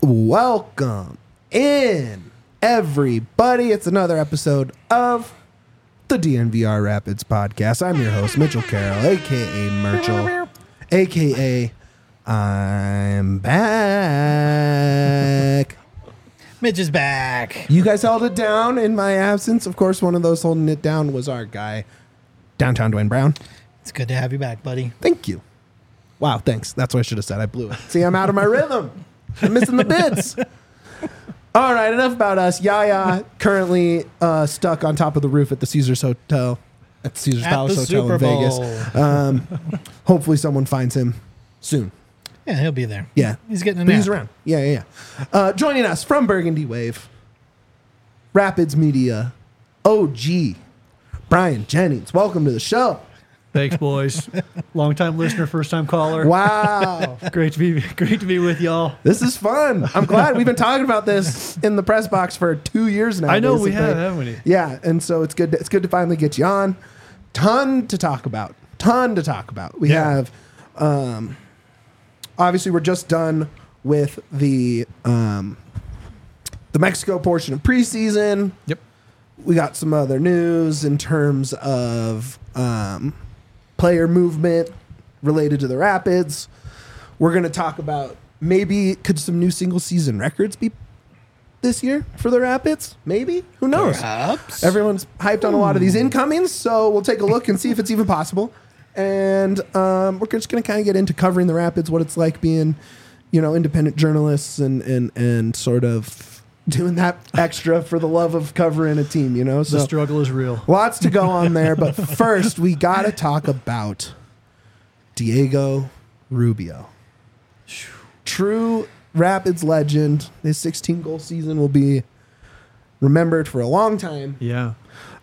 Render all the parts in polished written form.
Welcome in, everybody. It's another episode of the DNVR Rapids podcast. I'm your host, Mitchell Carroll, a.k.a. Merchel, a.k.a. I'm back. Mitch is back. You guys held it down in my absence. Of course, one of those holding it down was our guy, Downtown Dwayne Brown. It's good to have you back, buddy. Thank you. Wow, thanks. That's what I should have said. I blew it. See, I'm out of my rhythm. I'm missing the bits. All right, enough about us. Yaya currently stuck on top of the roof at the Caesars Hotel, at the Caesars Palace Hotel Super in Vegas. Hopefully someone finds him soon. Yeah, he'll be there. Yeah. He's getting a But nap. he's around. Yeah. Joining us from Burgundy Wave, Rapids Media, OG, Brian Jennings. Welcome to the show. Thanks, boys. Long-time listener, first-time caller. Wow. Great to be with y'all. This is fun. I'm glad. We've been talking about this in the press box for 2 years now. I know we basically. have, haven't we? Yeah, and so it's good. It's good to finally get you on. Ton to talk about. We have, obviously, we're just done with the Mexico portion of preseason. Yep. We got some other news in terms of player movement related to the Rapids. We're going to talk about maybe could some new single season records be this year for the Rapids? Maybe. Who knows? Perhaps. Everyone's hyped on a lot of these incomings, so we'll take a look and see if it's even possible. And we're just going to kind of get into covering the Rapids, what it's like being, independent journalists and sort of doing that extra for the love of covering a team, So The struggle is real. lots to go on there, but first we got to talk about Diego Rubio. True Rapids legend. His 16-goal season will be remembered for a long time. Yeah.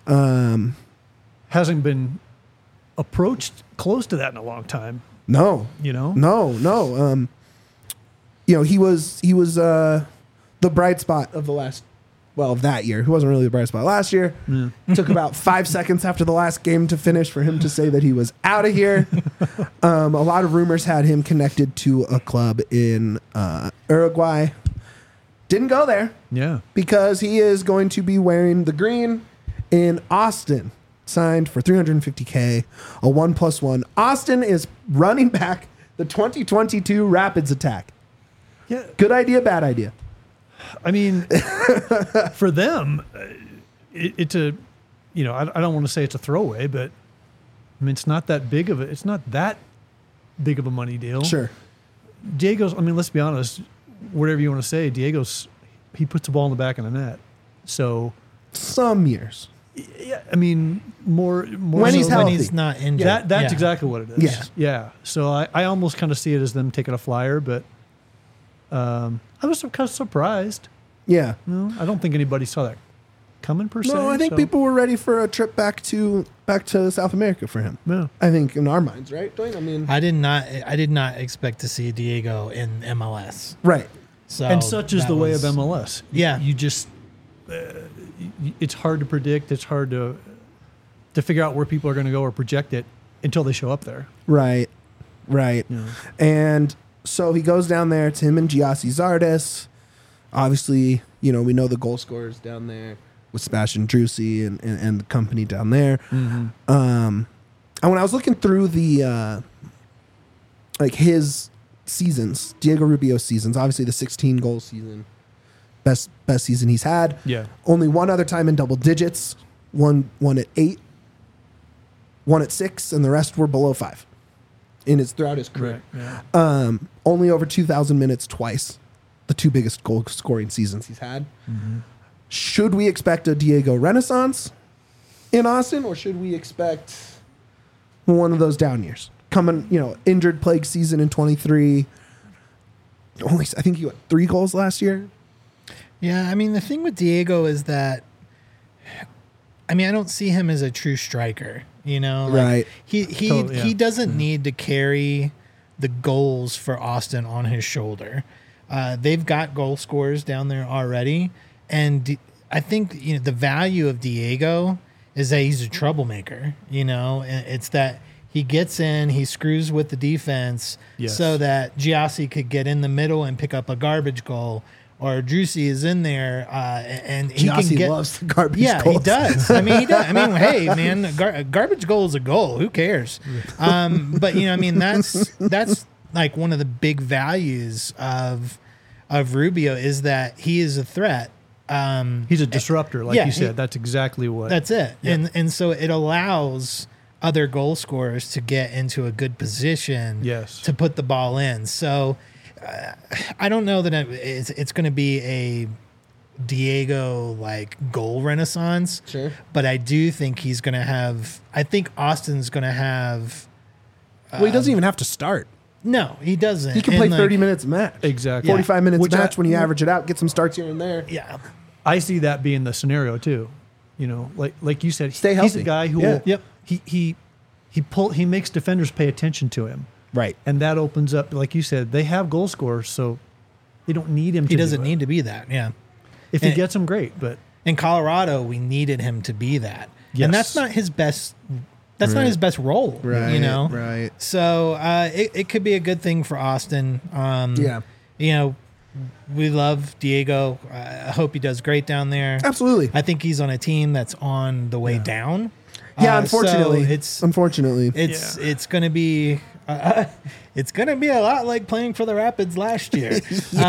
Hasn't been approached close to that in a long time. No. No. He was the bright spot of that year. He wasn't really the bright spot last year. Yeah. Took about 5 seconds after the last game to finish for him to say that he was out of here. A lot of rumors had him connected to a club in Uruguay. Didn't go there Yeah. because he is going to be wearing the green in Austin. Signed for $350K, a 1+1. Austin is running back the 2022 Rapids attack. Yeah. Good idea, bad idea. I mean, for them, it's a, I don't want to say it's a throwaway, but I mean, it's not that big of a money deal. Sure. Diego's, let's be honest, whatever you want to say, he puts the ball in the back of the net. So, Some years. yeah, more When he's so healthy. When he's not injured. That's Yeah. exactly what it is. Yeah. So I almost kind of see it as them taking a flyer, but I was kind of surprised. Yeah. I don't think anybody saw that coming per se. No, I think so, people were ready for a trip back to South America for him. Yeah. I think in our minds, right, Dwayne? I did not expect to see Diego in MLS. Right. So And such is that the way was- of MLS. Yeah. You just it's hard to predict. It's hard to figure out where people are going to go or project it until they show up there. Right. Yeah. And so he goes down there. It's him and Giassi Zardes. Obviously, we know the goal scorers down there with Sebastian Drusi and the company down there. Mm-hmm. And when I was looking through the his seasons, Diego Rubio's seasons, obviously the 16-goal season, best season he's had. Yeah. Only one other time in double digits, one at 8, one at 6, and the rest were below 5 throughout his career. Right. Yeah. Only over 2,000 minutes twice, the two biggest goal scoring seasons he's had. Mm-hmm. Should we expect a Diego renaissance in Austin, or should we expect one of those down years? Coming, injured plague season in 23. I think he got 3 goals last year. Yeah, the thing with Diego is that, I don't see him as a true striker. Right. He Totally, yeah. he doesn't need to carry the goals for Austin on his shoulder. They've got goal scorers down there already, and I think the value of Diego is that he's a troublemaker. And it's that he gets in, he screws with the defense Yes. so that Giassi could get in the middle and pick up a garbage goal, or Drusy is in there and he Giassi can get. loves the garbage Yeah, goals. he does. I mean, he does. I mean, hey, man, a garbage goal is a goal. Who cares? But I mean, that's like one of the big values of Rubio is that he is a threat. He's a disruptor, like yeah, you said. he- That's exactly what. That's it. Yeah. And so it allows other goal scorers to get into a good position Yes. to put the ball in. So I don't know that it's going to be a Diego like goal renaissance. Sure. But I do think he's going to have. I think Austin's going to have. Well, he doesn't even have to start. No, he doesn't. He can And, play like, 30 minutes a match. Exactly. 45 minutes Which match when you average it out, get some starts here and there. Yeah. I see that being the scenario too. You know, like you said, Stay he's healthy. a guy who Yeah. will, Yep. he makes defenders pay attention to him, Right. and that opens up, like you said, they have goal scorers, so they don't need him. He to doesn't do it. need to be that. Yeah. If he and- gets them, great. But In Colorado, we needed him to be that. And that's Yes. not his best. That's not his best role. You know. Right. So it could be a good thing for Austin. Yeah. You know, we love Diego. I hope he does great down there. Absolutely. I think he's on a team that's on the way down. Yeah, So unfortunately. it's Unfortunately. going to be it's going to be a lot like playing for the Rapids last year.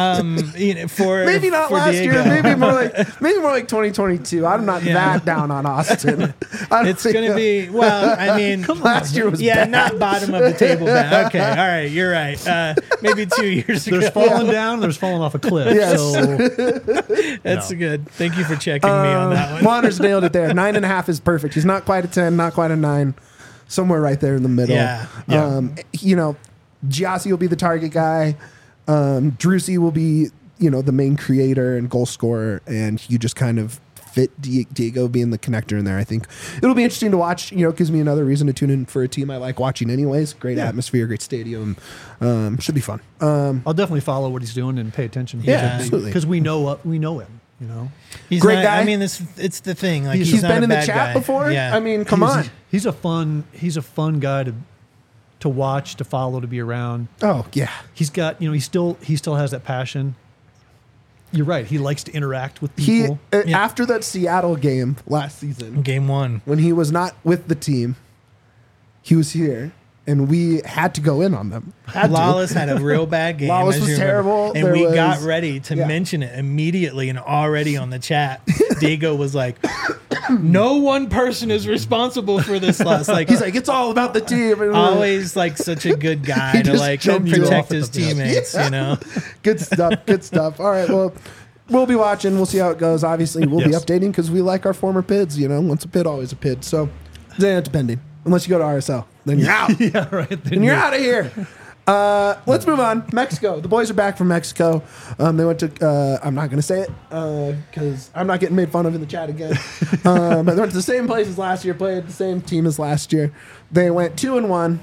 For Maybe not for last Diego. year. Maybe more like 2022. I'm not Yeah. that down on Austin. I don't It's think- going to be, well, I mean, Last year was yeah, bad. not bottom of the table bad. Okay, all right, you're right. Maybe 2 years ago. there's falling down, there's falling off a cliff. Yes. So That's No. good. Thank you for checking me on that one. Wander's nailed it there. 9.5 is perfect. He's not quite a 10, not quite a 9. Somewhere right there in the middle. Yeah. You know, Giassi will be the target guy. Drusy will be, the main creator and goal scorer, and you just kind of fit Diego being the connector in there. I think it'll be interesting to watch. It gives me another reason to tune in for a team I like watching anyways. Great atmosphere, great stadium. Should be fun. I'll definitely follow what he's doing and pay attention. Yeah, absolutely. Because we know him. You know, He's Great not, guy. I mean, it's the thing. Like He's not been a in the bad chat guy. before. Yeah. I mean, come on. he's a fun guy to watch, to follow, to be around. Oh yeah. He's got, he still has that passion. You're right. He likes to interact with He people. Yeah. after that Seattle game last season, Game 1. when he was not with the team, he was here, and we had to go in on them. Had to. Lawless had a real bad game. Lawless as was you remember. terrible. And There we was- got ready to yeah. mention it immediately, and already on the chat, Diego was like, "No one person is responsible for this loss." Like He's like, it's all about the team. And always like such a good guy He to just like jumped you protect off at his the bit. teammates. You know. Good stuff. Good stuff. All right. Well, we'll be watching. We'll see how it goes. Obviously, we'll be Yes. updating because we like our former PIDs. Once a PID, always a PID. So, depending. Unless you go to RSL, then you're out. Yeah, right. Then And you're out of here. Let's move on. Mexico. The boys are back from Mexico. They went to, I'm not going to say it because I'm not getting made fun of in the chat again. But they went to the same place as last year, played the same team as last year. They went 2-1.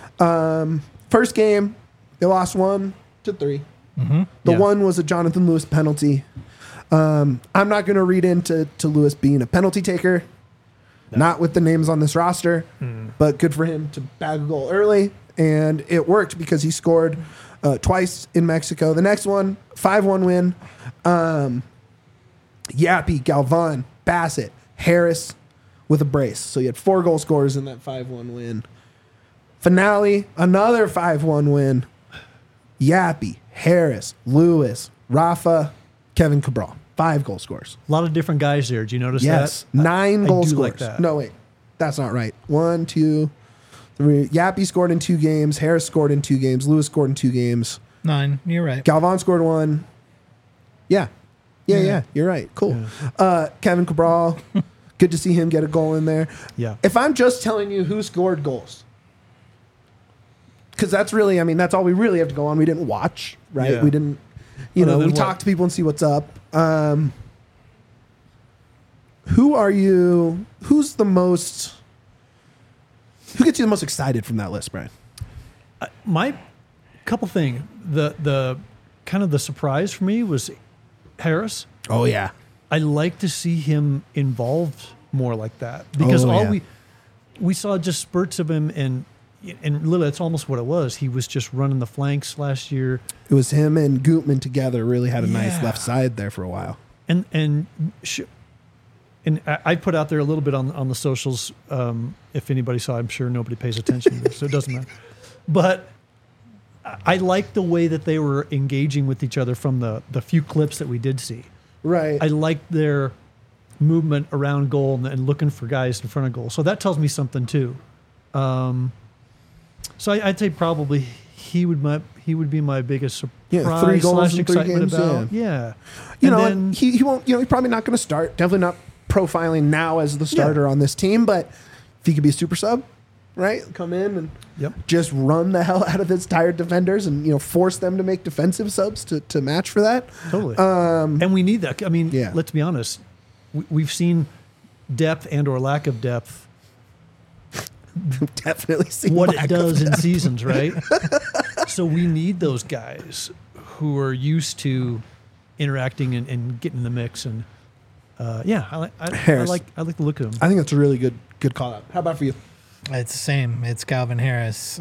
First game, they lost 1-3. The Yeah. one was a Jonathan Lewis penalty. I'm not going to read into Lewis being a penalty taker. Not with the names on this roster, but good for him to bag a goal early. And it worked because he scored twice in Mexico. The next one, 5-1 win. Yappy, Galvan, Bassett, Harris with a brace. So you had 4 goal scorers in that 5-1 win. Finale, another 5-1 win. Yappy, Harris, Lewis, Rafa, Kevin Cabral. 5 goal scorers. A lot of different guys there. Did you notice Yes, that? 9 I goal do scorers. like that. No, wait, that's not right. 1, 2, 3. Yappy scored in 2 games. Harris scored in 2 games. Lewis scored in 2 games. 9. You're right. Galvan scored 1. Yeah. You're right. Cool. Kevin Cabral. Good to see him get a goal in there. Yeah. If I'm just telling you who scored goals, because that's really, that's all we really have to go on. We didn't watch, right? Yeah. We didn't, Other than we what? talk to people and see what's up. Who are you? Who gets you the most excited from that list, Brian? My couple thing. The kind of the surprise for me was Harris. Oh yeah, I like to see him involved more like that because Oh, all yeah. we saw just spurts of him, and and Lila, it's almost what it was. He was just running the flanks last year. It was him and Gutman together really had a nice Yeah. left side there for a while. And I put out there a little bit on the socials. If anybody saw, I'm sure nobody pays attention, so it doesn't matter. But I like the way that they were engaging with each other from the few clips that we did see. Right. I liked their movement around goal and looking for guys in front of goal. So that tells me something too. So I'd say probably he would be my biggest surprise 3 goals / in 3 excitement games, about. Yeah. You And know, then- he won't. He's probably not going to start. Definitely not profiling now as the starter on this team. But if he could be a super sub, right? Come in and Yep. just run the hell out of his tired defenders, and force them to make defensive subs to match for that. Totally. And we need that. I mean, Yeah. let's be honest. We've seen depth and or lack of depth, Definitely see what lack it of does in depth. seasons, right? So we need those guys who are used to interacting and getting in the mix. And I Harris. like the look of them. I think that's a really good call out. How about for you? It's the same. It's Calvin Harris.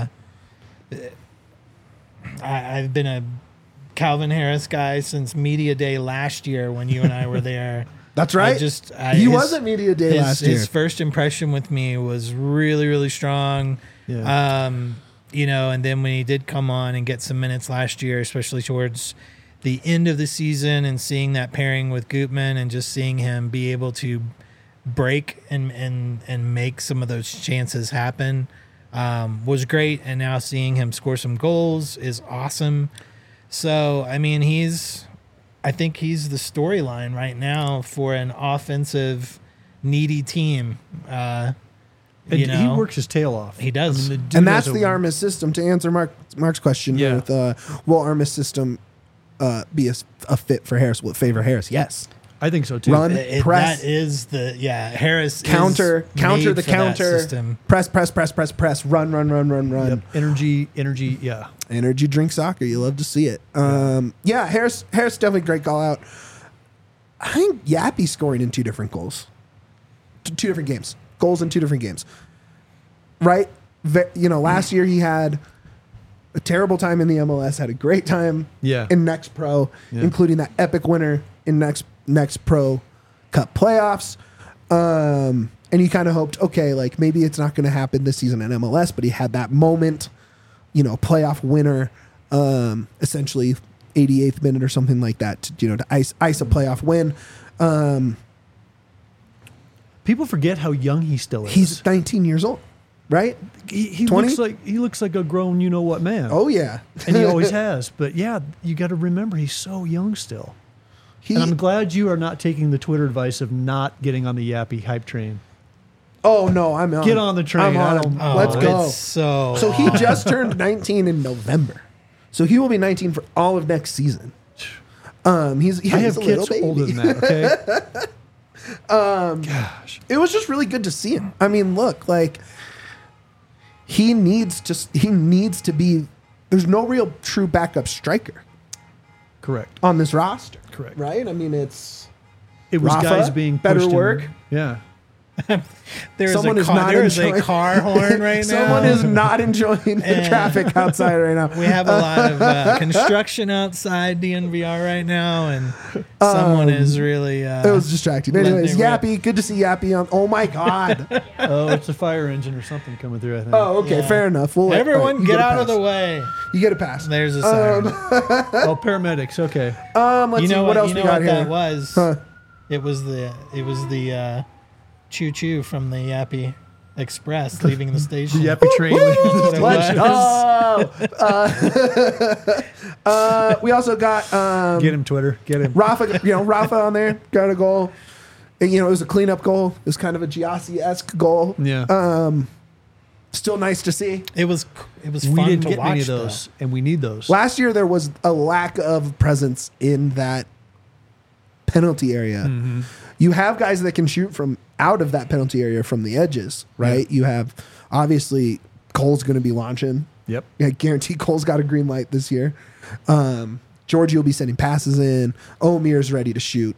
I've been a Calvin Harris guy since media day last year when you and I were there. That's right. He was at media day last year. His first impression with me was really, really strong. Yeah. And then when he did come on and get some minutes last year, especially towards the end of the season, and seeing that pairing with Gutman and just seeing him be able to break and make some of those chances happen was great. And now seeing him score some goals is awesome. So, I mean, I think he's the storyline right now for an offensive needy team. And he works his tail off. He does. I mean, dude And that's has the Armis system. To answer Mark's question, Yeah. with will Armis system be a fit for Harris? Will it favor Harris? Yes. I think so too. Run, press, That is Harris counter is the made for that counter, system. press, run. Yep. Energy. Yeah. Energy drink soccer. You love to see it. Harris definitely great call out. I think Yappy scoring in 2 different goals. 2 different games. Goals in 2 different games. Right? Last year he had a terrible time in the MLS, had a great time Yeah. in Next Pro, Yeah. including that epic winner in Next Pro Cup playoffs. And you kind of hoped, okay, like maybe it's not going to happen this season in MLS, but he had that moment, playoff winner, essentially 88th minute or something like that to ice a playoff win. People forget how young he still is. He's 19 years old, right? he 20? looks like a grown you know what man. Oh yeah. And he always has. But yeah, you got to remember he's so young still. And I'm glad you are not taking the Twitter advice of not getting on the Yappy hype train. Oh no, I'm on. Get on the train. I'm on. I don't- Let's go. It's so He just turned 19 in November, so he will be 19 for all of next season. He's I have a little kids baby. older than that, okay? Gosh. It was just really good to see him. I mean, look, like he needs to be. There's no real true backup striker Correct. on this roster. Correct. Right? I mean, it It was Rafa, guys being better pushed in- work. Yeah. There's Someone a is not there's enjoying- a car horn right now. Someone is not enjoying the Yeah. traffic outside right now. We have a lot of construction outside DNVR right now, and someone is really. It was distracting. letting Anyways, it rip. Yappy, good to see Yappy on. Oh my God. Oh, it's a fire engine or something coming through, I think. Oh, okay, Yeah. fair enough. We'll Everyone, you get a out of pass. the way. You get a pass. There's a siren. Oh, paramedics. Okay. Let's you see know what else You we know got what here. that was? Huh. It was the choo choo from the Yappy Express leaving the station. The Yappy train. That's what it Let's was. we also got Get him, Twitter. Get him. Rafa. Rafa on there got a goal. And, it was a cleanup goal. It was kind of a Giassi-esque goal. Yeah. Still nice to see. It was we fun didn't to get watch. many of those, and we need those. Last year there was a lack of presence in that penalty area. Mm-hmm. You have guys that can shoot from out of that penalty area from the edges, right? Yeah. You have obviously Cole's going to be launching. Yep. I guarantee Cole's got a green light this year. Georgie will be sending passes in. Omir's ready to shoot,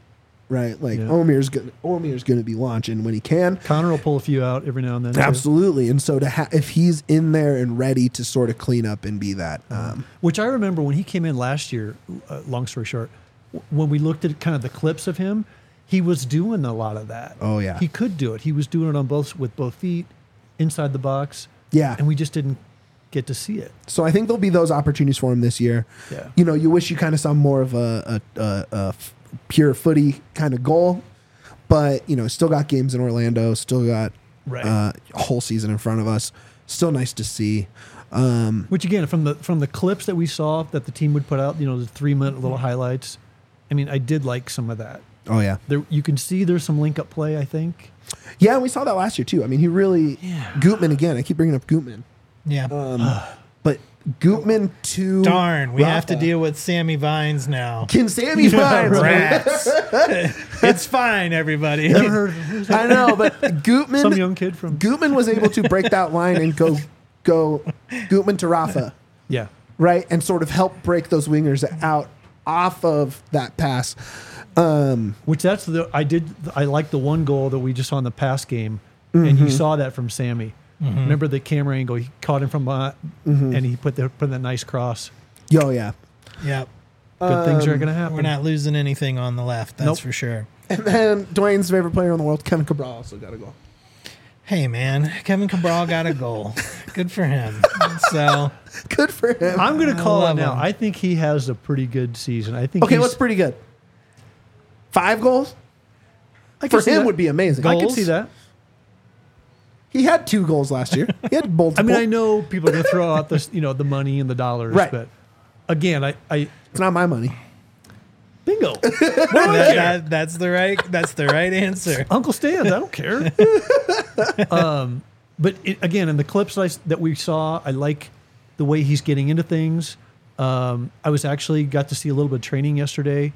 right? Like Yeah. Omir's gonna be launching when he can. Connor will pull a few out every now and then. too. Absolutely. And so if he's in there and ready to sort of clean up and be that, Which I remember when he came in last year, long story short, when we looked at kind of the clips of him, he was doing a lot of that. Oh, yeah. He could do it. He was doing it with both feet, inside the box. yeah. And we just didn't get to see it. So I think there'll be those opportunities for him this year. Yeah. You know, you wish you kind of saw more of a pure footy kind of goal, but you know, still got games in Orlando, still got Right. a whole season in front of us. Still nice to see. Which again, from the clips that we saw that the team would put out, you know, the 3-minute little highlights. I mean, I did like some of that. Oh yeah, There, you can see there's some link up play. I think. yeah. We saw that last year too. I mean, he really Gutman again. I keep bringing up Gutman, Yeah. but Gutman to Darn, we have to Rafa. deal with Sammy Vines now. Can Sammy Vines? Rats. It's fine, everybody. Never heard of him. I know, but Gutman. Some young kid from. Gutman was able to break that line and go Gutman to Rafa, Yeah. right, and sort of help break those wingers out off of that pass. Which I like the one goal that we just saw in the pass game, and you saw that from Sammy. Remember the camera angle? He caught him from behind, and he put that nice cross. Yo, yeah. Yep. Good things are going to happen. We're not losing anything on the left, that's Nope. for sure. And then Dwayne's favorite player in the world, Kevin Cabral, also got a goal. Hey, man, Kevin Cabral got a goal. Good for him. So, Good for him. I'm going to call it love now. him. I think he has a pretty good season. I think. Okay, he's, what's pretty good? 5 goals? I can For see him that. would be amazing. I can Goals? see that. He had 2 goals last year. He had I multiple. mean, I know people are going to throw out this, the money and the dollars, Right. but again, I It's not my money. bingo. that's the right answer. Uncle Stan's. I don't care. But again, in the clips that we saw, I like the way he's getting into things. I was actually got to see a little bit of training yesterday.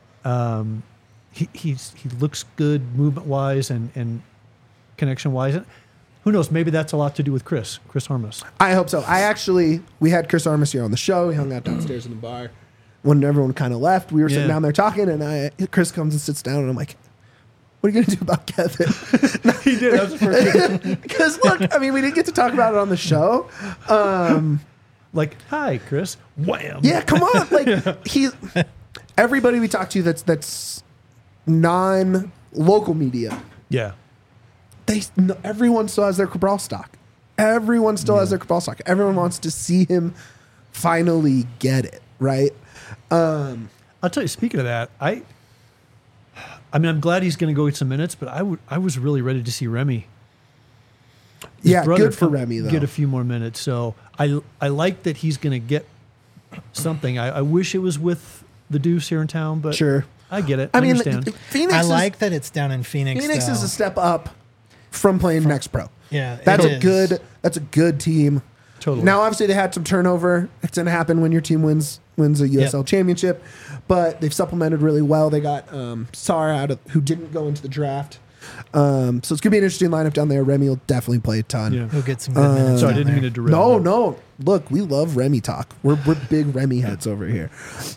He looks good movement wise and connection wise. Who knows? Maybe that's a lot to do with Chris Harmus. I hope so. We had Chris Armas here on the show. He hung out downstairs in the bar. When everyone kind of left, we were sitting Yeah. down there talking, and Chris comes and sits down, and I'm like, what are you going to do about Kevin? He did. That was the first thing. Because, look, I mean, we didn't get to talk about it on the show. Like, hi, Chris. Wham. Yeah, come on. Like, everybody we talk to that's non-local media, Yeah. everyone still has their Cabral stock. Everyone still has their Cabral stock. Everyone wants to see him finally get it, right? I'll tell you. Speaking of that, I mean, I'm glad he's going to go get some minutes, but I was really ready to see Remy. His Yeah, brother good for come Remy, though. Get a few more minutes. So I like that he's going to get something. I wish it was with the Deuce here in town, but Sure. I get it. I I mean, understand. Phoenix I is, like that it's down in Phoenix. Phoenix is though. a step up from playing Next Pro. Yeah, That's it a is. good team. Totally. Now, obviously, they had some turnover. It's going to happen when your team wins a USL championship, but they've supplemented really well. They got Sar who didn't go into the draft. So it's going to be an interesting lineup down there. Remy will definitely play a ton. Yeah. He'll get some good minutes. Sorry, I down didn't mean there. to derail. No. Look, we love Remy talk. We're big Remy heads over here.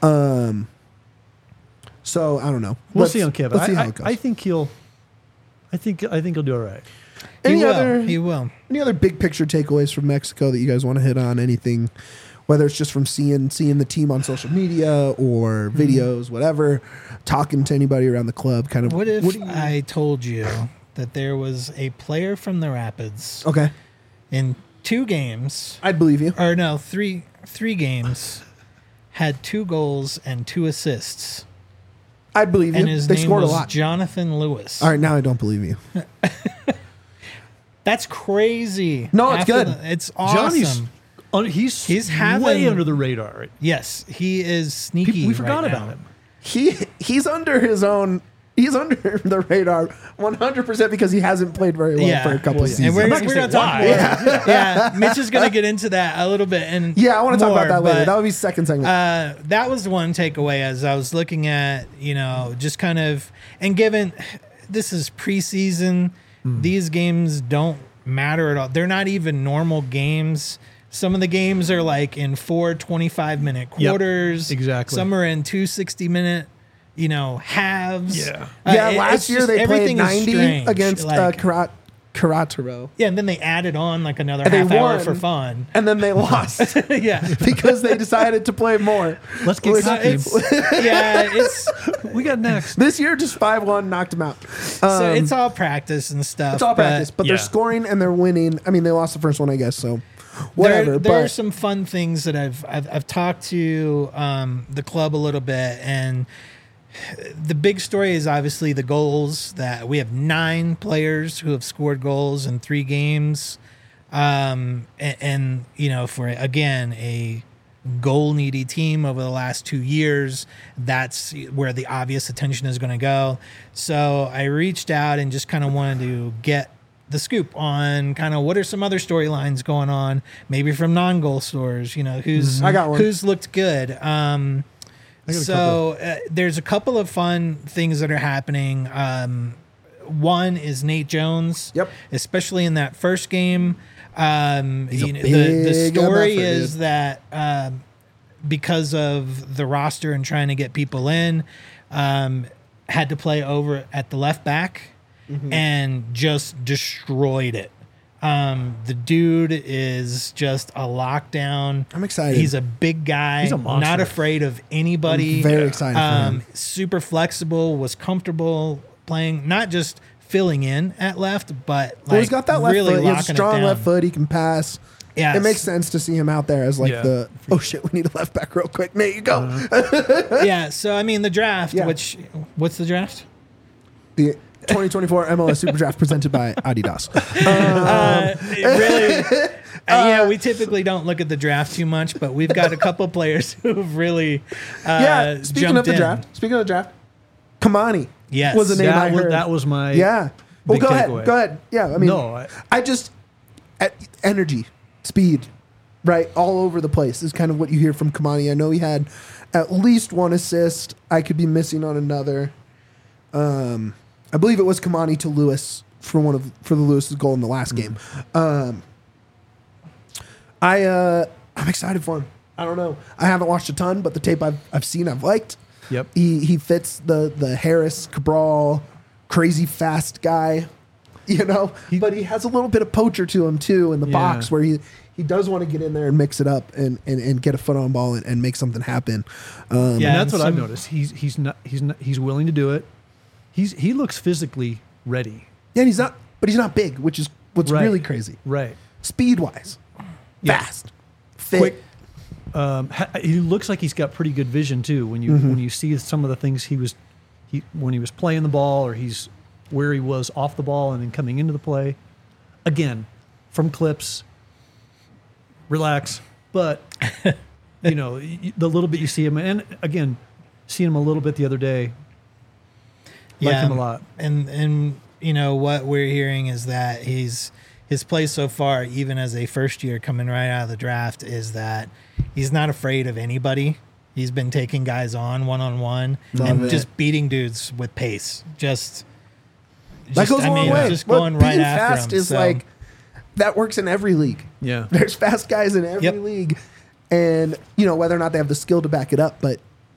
So I don't know. We'll see on Kevin. Let's see how it goes. I think he'll do all right. He will. Any other big picture takeaways from Mexico that you guys want to hit on? Anything, whether it's just from seeing the team on social media or videos, whatever, talking to anybody around the club, kind of. What if I told you that there was a player from the Rapids Okay, in 2 games, I'd believe you. or no, three games, had 2 goals and 2 assists, I'd believe you. and his They name scored was a lot. Jonathan Lewis. All right, now I don't believe you. That's crazy. No, it's good. It's awesome. He's He's having- way under the radar. Right? Yes, he is sneaky. We forgot right about now. him. He's under his own. He's under the radar 100% because he hasn't played very well for a couple of seasons. And we're I'm not going gonna to say talk why. more. Yeah, Mitch is going to get into that a little bit. And Yeah, I want to talk about more, that later. but, That would be second segment. that was one takeaway as I was looking at, just kind of, and given this is preseason, these games don't matter at all. They're not even normal games. Some of the games are like in 4 25-minute quarters. exactly. Some are in 2 60-minute halves. Yeah. Yeah, It's last year just- they played everything is 90 strange. against Like, Karataro. yeah, and then they added on like another And they half hour won. for fun. And then they lost Yeah. because they decided to play more. Let's get Which- cocky. It's We got next. This year, just 5-1 knocked them out. so it's all practice and stuff. It's all practice, but they're yeah. scoring and they're winning. I mean, they lost the first one, I guess, so whatever. There are but some fun things that I've talked to the club a little bit, and the big story is obviously the goals. That we have 9 players who have scored goals in 3 games, and for again a goal needy team over the last 2 years, that's where the obvious attention is going to go. So I reached out and just kind of wanted to get the scoop on kind of what are some other storylines going on, maybe from non-goal stores, I got one. who's looked good. got a So there's a couple of fun things that are happening. One is Nate Jones. Yep. Especially in that first game. He's a The big story MFer, is dude. that because of the roster and trying to get people in, had to play over at the left back and just destroyed it. The dude is just a lockdown. I'm excited. He's a big guy, He's a monster. not afraid of anybody. I'm very excited for him. Super flexible, was comfortable playing, not just filling in at left, but like well, he's got that left really foot. He has a locking it strong down. left foot. He can pass. Yes. It makes sense to see him out there as like Yeah. oh shit, we need a left back real quick. Nate, you go. Yeah. So I mean, the draft. Yeah. What's the draft? The 2024 MLS Super Draft presented by Adidas. We typically don't look at the draft too much, but we've got a couple players who've really Speaking jumped of the in. draft, Kamani Yes. was the name I heard. That was my Yeah. Well, big go takeaway. ahead. Go ahead. Yeah. I mean, No, I just energy, speed, right, all over the place is kind of what you hear from Kamani. I know he had at least 1 assist. I could be missing on another. I believe it was Kamani to Lewis for the Lewis's goal in the last game. I'm excited for him. I don't know. I haven't watched a ton, but the tape I've seen, I've liked. Yep. He fits the Harris Cabral crazy fast guy, but he has a little bit of poacher to him too in the Yeah. box where he does want to get in there and mix it up and get a foot on ball and make something happen. Yeah. And that's and what I've some- noticed. He's willing to do it. He looks physically ready. Yeah, and he's not big, which is what's Right. really crazy. Right. Speed wise, Yeah. fast, fit. Quick. He looks like he's got pretty good vision too. When you see some of the things when he was playing the ball, or he's where he was off the ball and then coming into the play. Again, from clips, relax. But the little bit you see him, and again, seeing him a little bit the other day, like him a lot. And what we're hearing is that his play so far, even as a first year coming right out of the draft, is that he's not afraid of anybody. He's been taking guys on one-on-one and it. just beating dudes with pace. That goes a long way. Just Look, going right being after fast him. is So, like that works in every league. Yeah. There's fast guys in every Yep. league, and whether or not they have the skill to back it up, but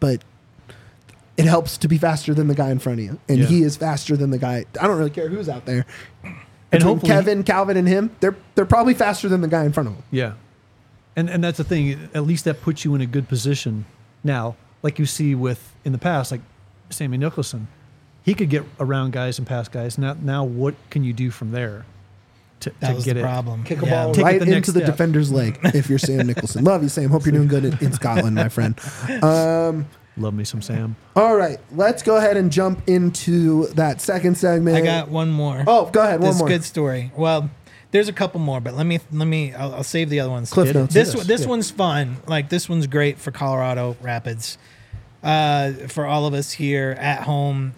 it helps to be faster than the guy in front of you, and Yeah. he is faster than the guy. I don't really care who's out there. And Between hopefully Calvin, and him, they're probably faster than the guy in front of him. Yeah. And that's the thing. At least that puts you in a good position. Now, like you see in the past, like Sammy Nicholson, he could get around guys and past guys. Now what can you do from there to that was get the it? problem. Kick a Yeah. ball Take it right the next into the step. defender's leg if you're Sam Nicholson. Love you, Sam. Hope you're doing good in Scotland, my friend. Love me some Sam. All right, let's go ahead and jump into that second segment. I got one more. Oh, go ahead. One This more. good story. Well, there's a couple more, but let me. I'll save the other ones. Cliff notes. This Yeah. one's fun. Like this one's great for Colorado Rapids. For all of us here at home,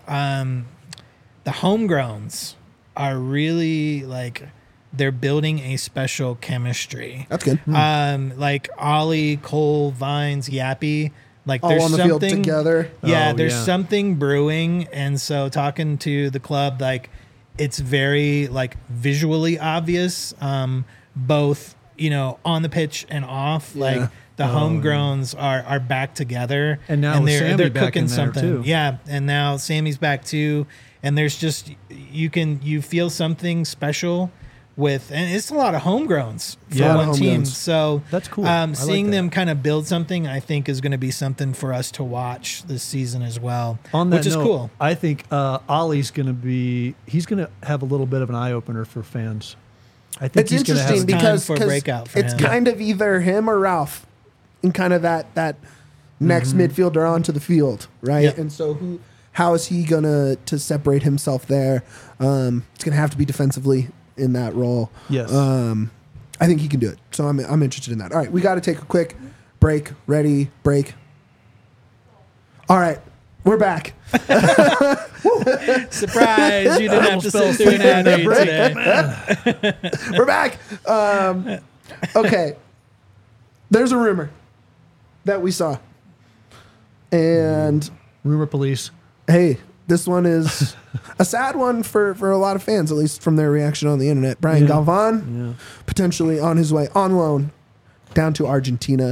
the homegrowns are really they're building a special chemistry. That's good. Like Ollie, Cole, Vines, Yappy. Like All there's on the something field together. Yeah, Oh, there's yeah. something brewing, and so talking to the club, it's very visually obvious, both on the pitch and off. Yeah. the homegrowns are back together, And now with Sammy they're back cooking in there, something. too. Yeah, and now Sammy's back too, and there's just you feel something special with, and it's a lot of homegrowns for Yeah. one team. Homegrowns. So That's cool. I like Seeing that. them kind of build something, I think, is going to be something for us to watch this season as well, On that which is note, cool. I think Ollie's going to he's going to have a little bit of an eye opener for fans. I think It's he's going to have interesting time because for a 'cause breakout for it's him. kind of either him or Ralph in kind of that next midfielder onto the field, right? Yep. And so how is he gonna to separate himself there? It's gonna have to be defensively in that role. Yes. I think he can do it. So I'm interested in that. All right, we got to take a quick break. Ready? Break. All right, we're back. Surprise! You didn't have to sit through an ad read today. We're back. Okay. There's a rumor that we saw. And Rumor police. hey, this one is a sad one for a lot of fans, at least from their reaction on the internet. Brian Yeah. Galvan, Yeah. potentially on his way on loan down to Argentina.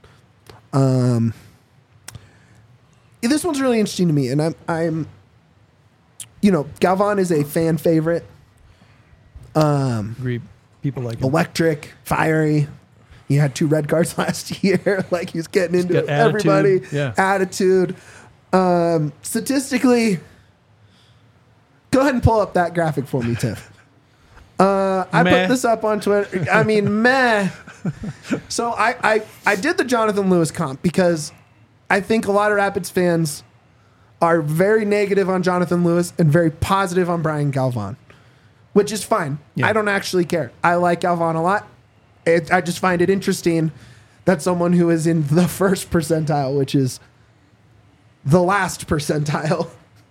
This one's really interesting to me, and I'm Galvan is a fan favorite. Agree. People like him. Electric, fiery. He had 2 red cards last year. Like he's getting into got it. Everybody. attitude. Yeah. Attitude. Statistically, go ahead and pull up that graphic for me, Tiff. I Meh. put this up on Twitter. I mean, meh. So I did the Jonathan Lewis comp because I think a lot of Rapids fans are very negative on Jonathan Lewis and very positive on Brian Galvan, which is fine. Yeah. I don't actually care. I like Galvan a lot. I just find it interesting that someone who is in the first percentile, which is the last percentile,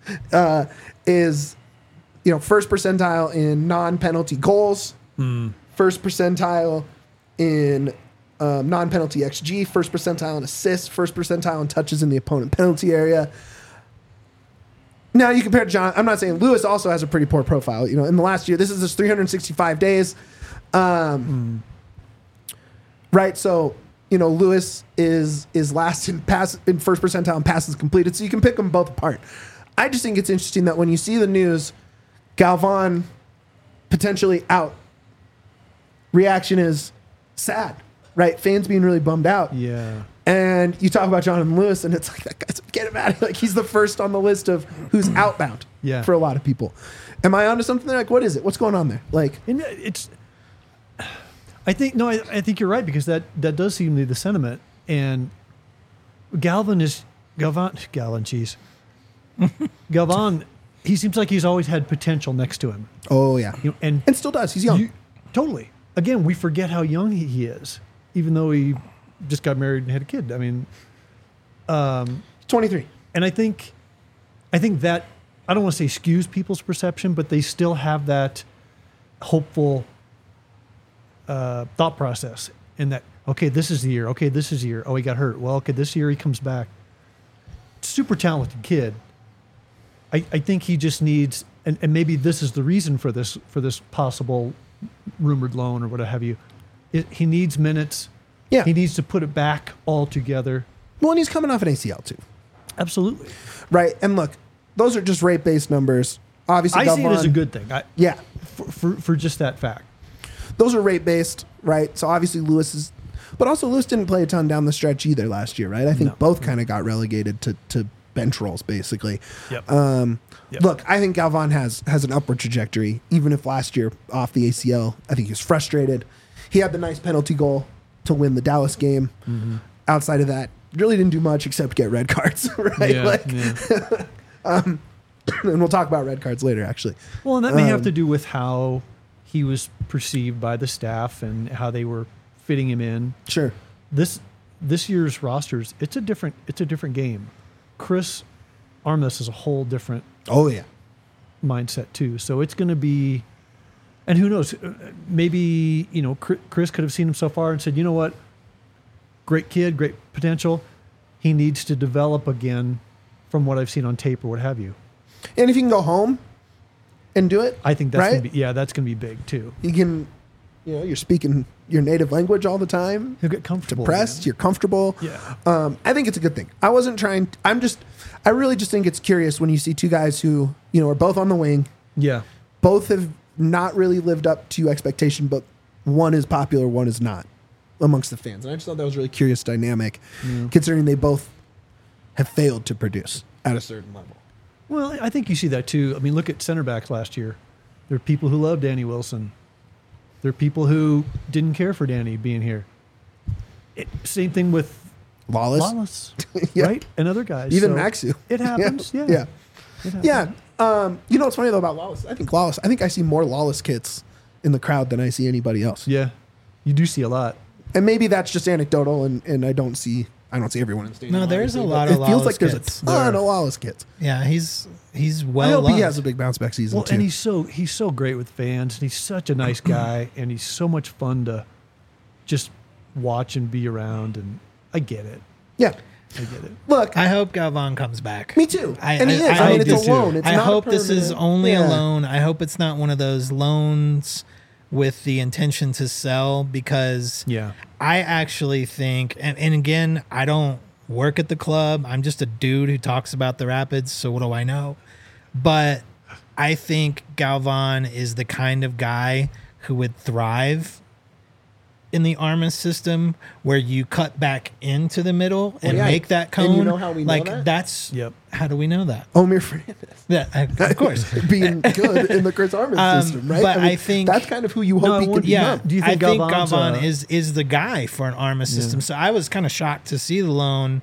is first percentile in non-penalty goals, first percentile in non-penalty XG, first percentile in assists, first percentile in touches in the opponent penalty area. Now you compare to John. I'm not saying Lewis also has a pretty poor profile. In the last year, this is his 365 days. Right, so Lewis is last in first percentile in passes completed, so you can pick them both apart. I just think it's interesting that when you see the news, Galvan potentially out, reaction is sad, right? Fans being really bummed out. Yeah. And you talk about Jonathan Lewis, and it's like, that guy's, get him out of here. Like, he's the first on the list of who's outbound Yeah. for a lot of people. Am I onto something there? Like, what is it? What's going on there? Like, And I think you're right, because that does seem to be the sentiment. And Galvan, cheese. Galvan, he seems like he's always had potential next to him. oh, yeah. And Still does. He's young. totally. Again, we forget how young he is, even though he just got married and had a kid. I mean, 23. and I think that, I don't want to say skews people's perception, but they still have that hopeful thought process in that, okay, this is the year. Okay, this is the year. Oh, he got hurt. Well, okay, this year he comes back. Super talented kid. I think he just needs, and maybe this is the reason for this possible rumored loan or what have you. He needs minutes. Yeah. He needs to put it back all together. Well, and he's coming off an ACL, too. Absolutely. Right. And look, those are just rate-based numbers. Obviously, I see it as a Galvan- good thing. Yeah. For just that fact. Those are rate-based, right? So obviously Lewis is... But also Lewis didn't play a ton down the stretch either last year, right? I think No. both kind of got relegated to bench roles, basically. Yep. Yep. Look, I think Galvan has an upward trajectory, even if last year off the ACL, I think he was frustrated. He had the nice penalty goal to win the Dallas game. Mm-hmm. Outside of that, really didn't do much except get red cards, right? Yeah, And we'll talk about red cards later, actually. Well, and that may have to do with how he was perceived by the staff and how they were fitting him in. Sure. This year's rosters, it's a different game. Chris Armas is a whole different Oh, yeah. mindset too. So it's going to be, and who knows, maybe, Chris could have seen him so far and said, you know what, great kid, great potential. He needs to develop again from what I've seen on tape or what have you. And if you can go home and do it, I think that's right? going to be, that's going to be big too. You can You know, you're speaking your native language all the time. He'll get comfortable. Depressed, man. you're comfortable. Yeah. I think it's a good thing. I really just think it's curious when you see two guys who, you know, are both on the wing. Yeah. Both have not really lived up to expectation, but one is popular, one is not amongst the fans. And I just thought that was a really curious dynamic, considering they both have failed to produce at a certain level. Well, I think you see that too. I mean, look at center backs last year. There are people who love Danny Wilson. There are people who didn't care for Danny being here. Same thing with Lawless. Wallace, right? And other guys. Even So Maxu. It happens. Yeah. Yeah. It happens. Yeah. You know what's funny though about Lawless? I think I see more Lawless kits in the crowd than I see anybody else. Yeah. You do see a lot. And maybe that's just anecdotal and I don't see everyone in the stadium. No, there's a obviously, lot but of it feels Lawless like there's kits. a ton of Lawless kits. Yeah, he's I well hope he loved. has a big bounce back season Well, too. and he's so great with fans, and he's such a nice guy, and he's so much fun to just watch and be around. And I get it. Yeah. I get it. Look, I hope Galvan comes back. me too. And he is. I mean, hope it's do a loan. too. It's I not a hope this is permanent- only a Yeah. loan. I hope it's not one of those loans with the intention to sell, because Yeah. I actually think, and again, I don't work at the club. I'm just a dude who talks about the Rapids, so what do I know? But I think Galvan is the kind of guy who would thrive in the Armas system, where you cut back into the middle and yeah. make that cone. And you know how we know like that? that's Yep. how do we know that? Omir Fernandez Yeah, of course. being good in the Chris Armas system, right? but I think- that's kind of who you hope No, he could Yeah, become. Do you think I think Galvan's, Galvan is the guy for an Armas system. So I was kind of shocked to see the loan.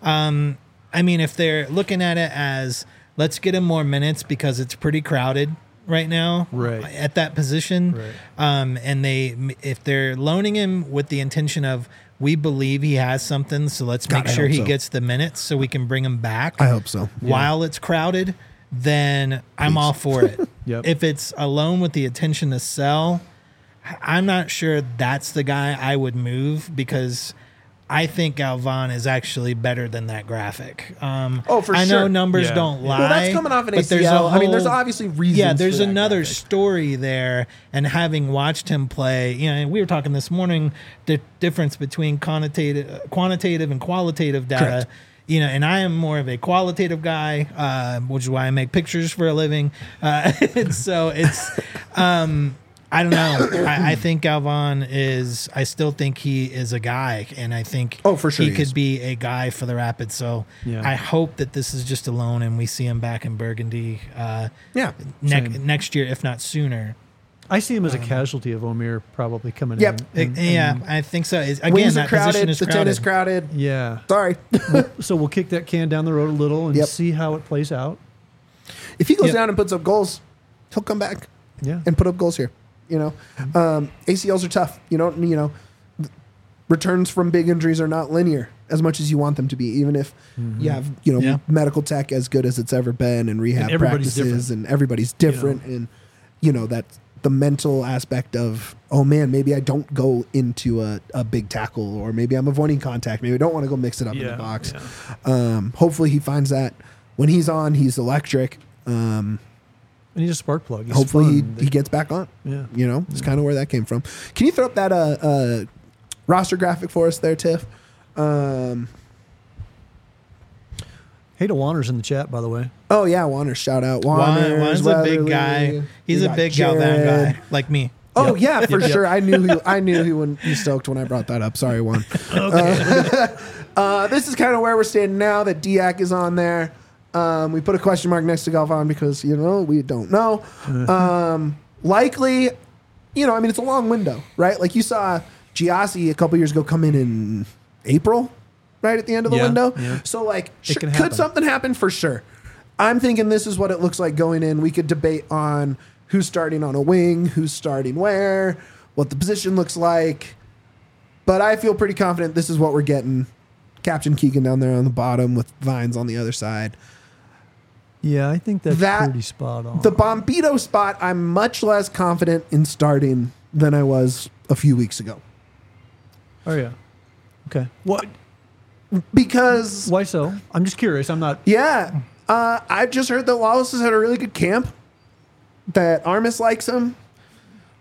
I mean, if they're looking at it as let's get him more minutes because it's pretty crowded right now, Right. at that position, Right. and if they're loaning him with the intention of we believe he has something, so let's God, make I sure hope he so. gets the minutes so we can bring him back. I hope so. While it's crowded, then I'm all for it. Yep. If it's a loan with the intention to sell, I'm not sure that's the guy I would move, because I think Galvan is actually better than that graphic. Oh, for I know sure. numbers Yeah. don't lie. Well, that's coming off an but there's a ACL. I mean, there's whole- obviously reasons. Yeah, there's for that another graphic. story there. And having watched him play, you know, we were talking this morning, the difference between quantitative and qualitative data. Correct. You know, and I am more of a qualitative guy, which is why I make pictures for a living. And so it's, I don't know. I think Galvan is, I still think he is a guy. And I think Oh, for sure he he could is. be a guy for the Rapids. So Yeah. I hope that this is just a loan and we see him back in Burgundy Yeah. Same. next year, if not sooner. I see him as a casualty of Omir probably coming Yep. in. Yeah, I think so. Again, Wings are that position crowded. is The crowded. 10 is crowded. Yeah. Sorry. So we'll kick that can down the road a little and Yep. see how it plays out. If he goes Yep. down and puts up goals, he'll come back Yeah. and put up goals here. You know, ACLs are tough. You know, returns from big injuries are not linear as much as you want them to be. Even if you have, Yeah. medical tech as good as it's ever been, and rehab And everybody's practices, and everybody's different, and that's the mental aspect of, oh man, maybe I don't go into a big tackle, or maybe I'm avoiding contact. Maybe I don't want to go mix it up in the box. Yeah. Hopefully he finds that when he's on, he's electric. And he's a spark plug. He's Hopefully fun. he gets back on. Yeah. It's kind of where that came from. Can you throw up that roster graphic for us there, Tiff? Hey to Wanners in the chat, by the way. Oh yeah, Warner, shout out Warner. Juan's a big guy. He's a big Galvan guy, like me. Oh yeah, for Yep. sure. I knew he wouldn't be stoked when I brought that up. Sorry, Juan. This is kind of where we're standing now that Diak is on there. We put a question mark next to Galvan because we don't know. Likely, it's a long window, right? Like you saw Giassi a couple years ago come in April, right at the end of the Yeah, window. yeah. So like, It can could happen. something happen? For sure. I'm thinking this is what it looks like going in. We could debate on who's starting on a wing, who's starting where, what the position looks like. But I feel pretty confident this is what we're getting. Captain Keegan down there on the bottom with Vines on the other side. Yeah, I think that's That- pretty spot on. The Bombito spot, I'm much less confident in starting than I was a few weeks ago. Oh yeah. Okay. What? Because, Why so? I'm just curious. I'm not. yeah, I've just heard that Lawless has had a really good camp, that Armis likes him.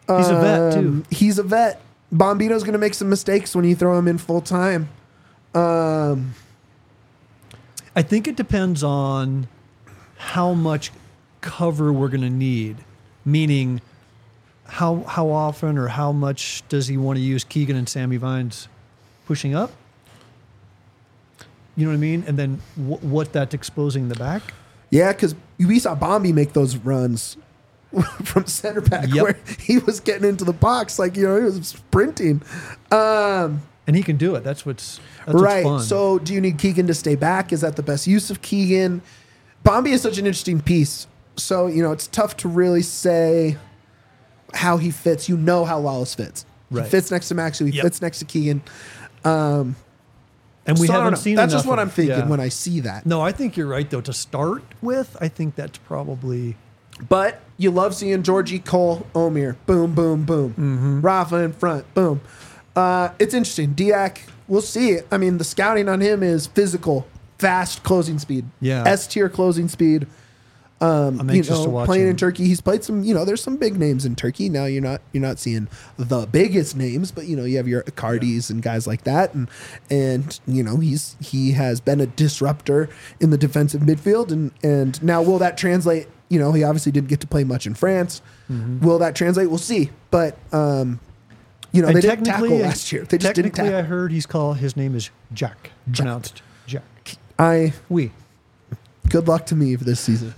He's a vet too. He's a vet. Bombito's going to make some mistakes when you throw him in full time. I think it depends on how much cover we're going to need, meaning how often or how much does he want to use Keegan and Sammy Vines pushing up? You know what I mean? And then what that's exposing in the back. Yeah, because we saw Bombi make those runs from center back where he was getting into the box like, he was sprinting. And he can do it. That's what's right. fun. So do you need Keegan to stay back? Is that the best use of Keegan? Bombi is such an interesting piece. So, it's tough to really say how he fits. You know how Lawless fits. Right. He fits next to Maxu. He fits next to Keegan. And we haven't seen that's just enough what of- I'm thinking yeah. when I see that. No, I think you're right, though. To start with, I think that's probably... But you love seeing Georgie, Cole, Omir. Boom, boom, boom. Mm-hmm. Rafa in front. Boom. It's interesting. Diak, we'll see it. I mean, the scouting on him is physical, fast closing speed. Yeah. S-tier closing speed. I'm anxious to watch playing him. in Turkey. He's played some, there's some big names in Turkey. Now you're not seeing the biggest names, but you have your Icardis and guys like that. And he has been a disruptor in the defensive midfield. And now will that translate? He obviously didn't get to play much in France. Mm-hmm. Will that translate? We'll see. But And they didn't tackle technically- last year. They just didn't Technically, I tackle. heard his name is Jack. Pronounced Jack. Good luck to me for this season.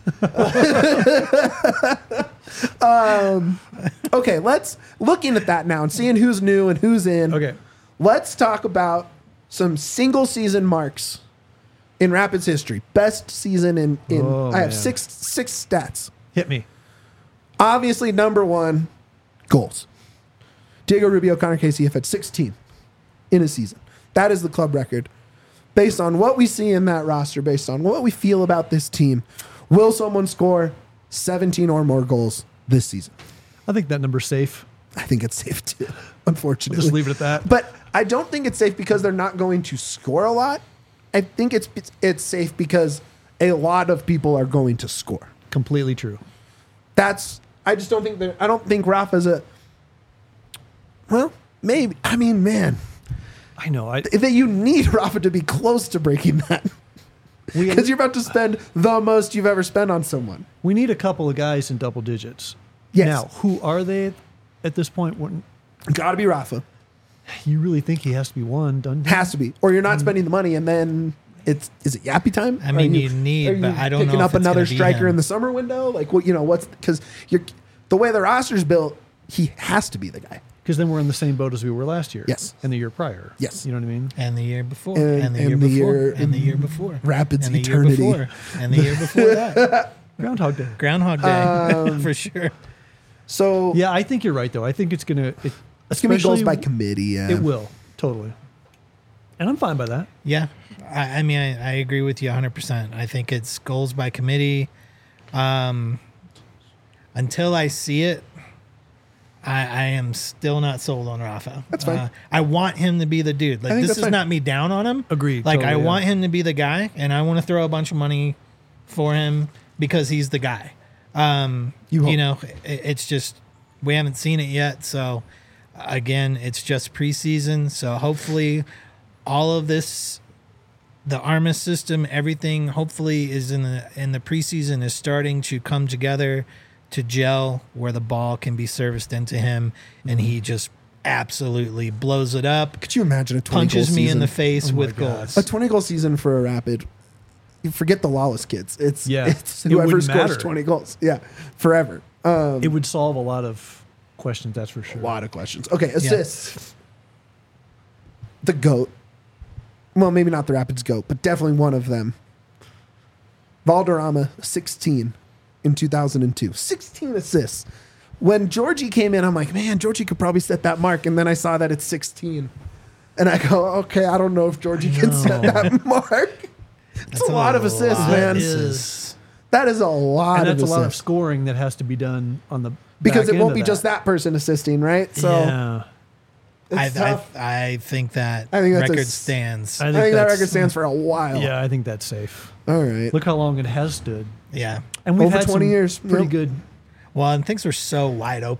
Okay, let's looking at that now and seeing who's new and who's in. Okay. Let's talk about some single season marks in Rapids history. Best season in Oh, I have man. six stats. Hit me. Obviously, number one, goals. Diego Rubio, Connor Casey have had 16 in a season. That is the club record. Based on what we see in that roster, based on what we feel about this team, will someone score 17 or more goals this season? I think that number's safe. I think it's safe too, unfortunately. Just leave it at that. But I don't think it's safe because they're not going to score a lot. I think it's safe because a lot of people are going to score. Completely true. I just don't think I don't think Rafa's maybe. I mean, man, I know. that you need Rafa to be close to breaking that. Because you're about to spend the most you've ever spent on someone. We need a couple of guys in double digits. Yes. Now, who are they at this point? Got to be Rafa. You really think he has to be one? Doesn't he? Has to be. Or you're not spending the money and then is it yappy time? I mean, Are you need, are you but I don't know picking if up it's another gonna be striker him. in the summer window? Like, what's because the way the roster's built, he has to be the guy. Because then we're in the same boat as we were last year. Yes. And the year prior. Yes. You know what I mean? And the year before. And- And the and year the before. year And the in year before. Rapids and the eternity. Year before. And the year before that. Groundhog Day. Groundhog Day. For sure. So Yeah, I think you're right, though. I think it's going to... it's gonna be goals by committee. Yeah, It will. Totally. And I'm fine by that. Yeah. I mean, I agree with you 100%. I think it's goals by committee. Until I see it, I am still not sold on Rafa. That's fine. I want him to be the dude. Like, think this that's is fine. not me down on him. Agreed. Like, Totally, I yeah. want him to be the guy, and I want to throw a bunch of money for him because he's the guy. You hope. It's just we haven't seen it yet. So, again, it's just preseason. So, hopefully, all of this, the Armis system, everything, hopefully, is in the preseason is starting to come together to gel where the ball can be serviced into him, and he just absolutely blows it up, Could you imagine a 20 punches goal me in season? the face Oh my with God. goals. A 20 goal season for a Rapid. You forget the Lawless kids. It's Yeah. It's It whoever wouldn't scores matter. 20 goals. Yeah, forever. It would solve a lot of questions, that's for sure. A lot of questions. Okay, assists. The GOAT. Well, maybe not the Rapids GOAT, but definitely one of them. Valderrama, 16 in 2002. 16 assists. When Georgie came in, I'm like, man, Georgie could probably set that mark. And then I saw that it's 16. And I go, okay, I don't know if Georgie can set that mark. It's a lot of assists, lot man. of assists. That is a lot And of that's a assists. lot of scoring that has to be done on the Because back it end won't of be just that person assisting, right? So yeah. it's tough. I think that I think that's record a- stands. I I think that that's- record stands for a while. Yeah, I think that's safe. All right. Look how long it has stood. Yeah. And we've Over had 20 some years. pretty Yep. good. Well, and things were so wide open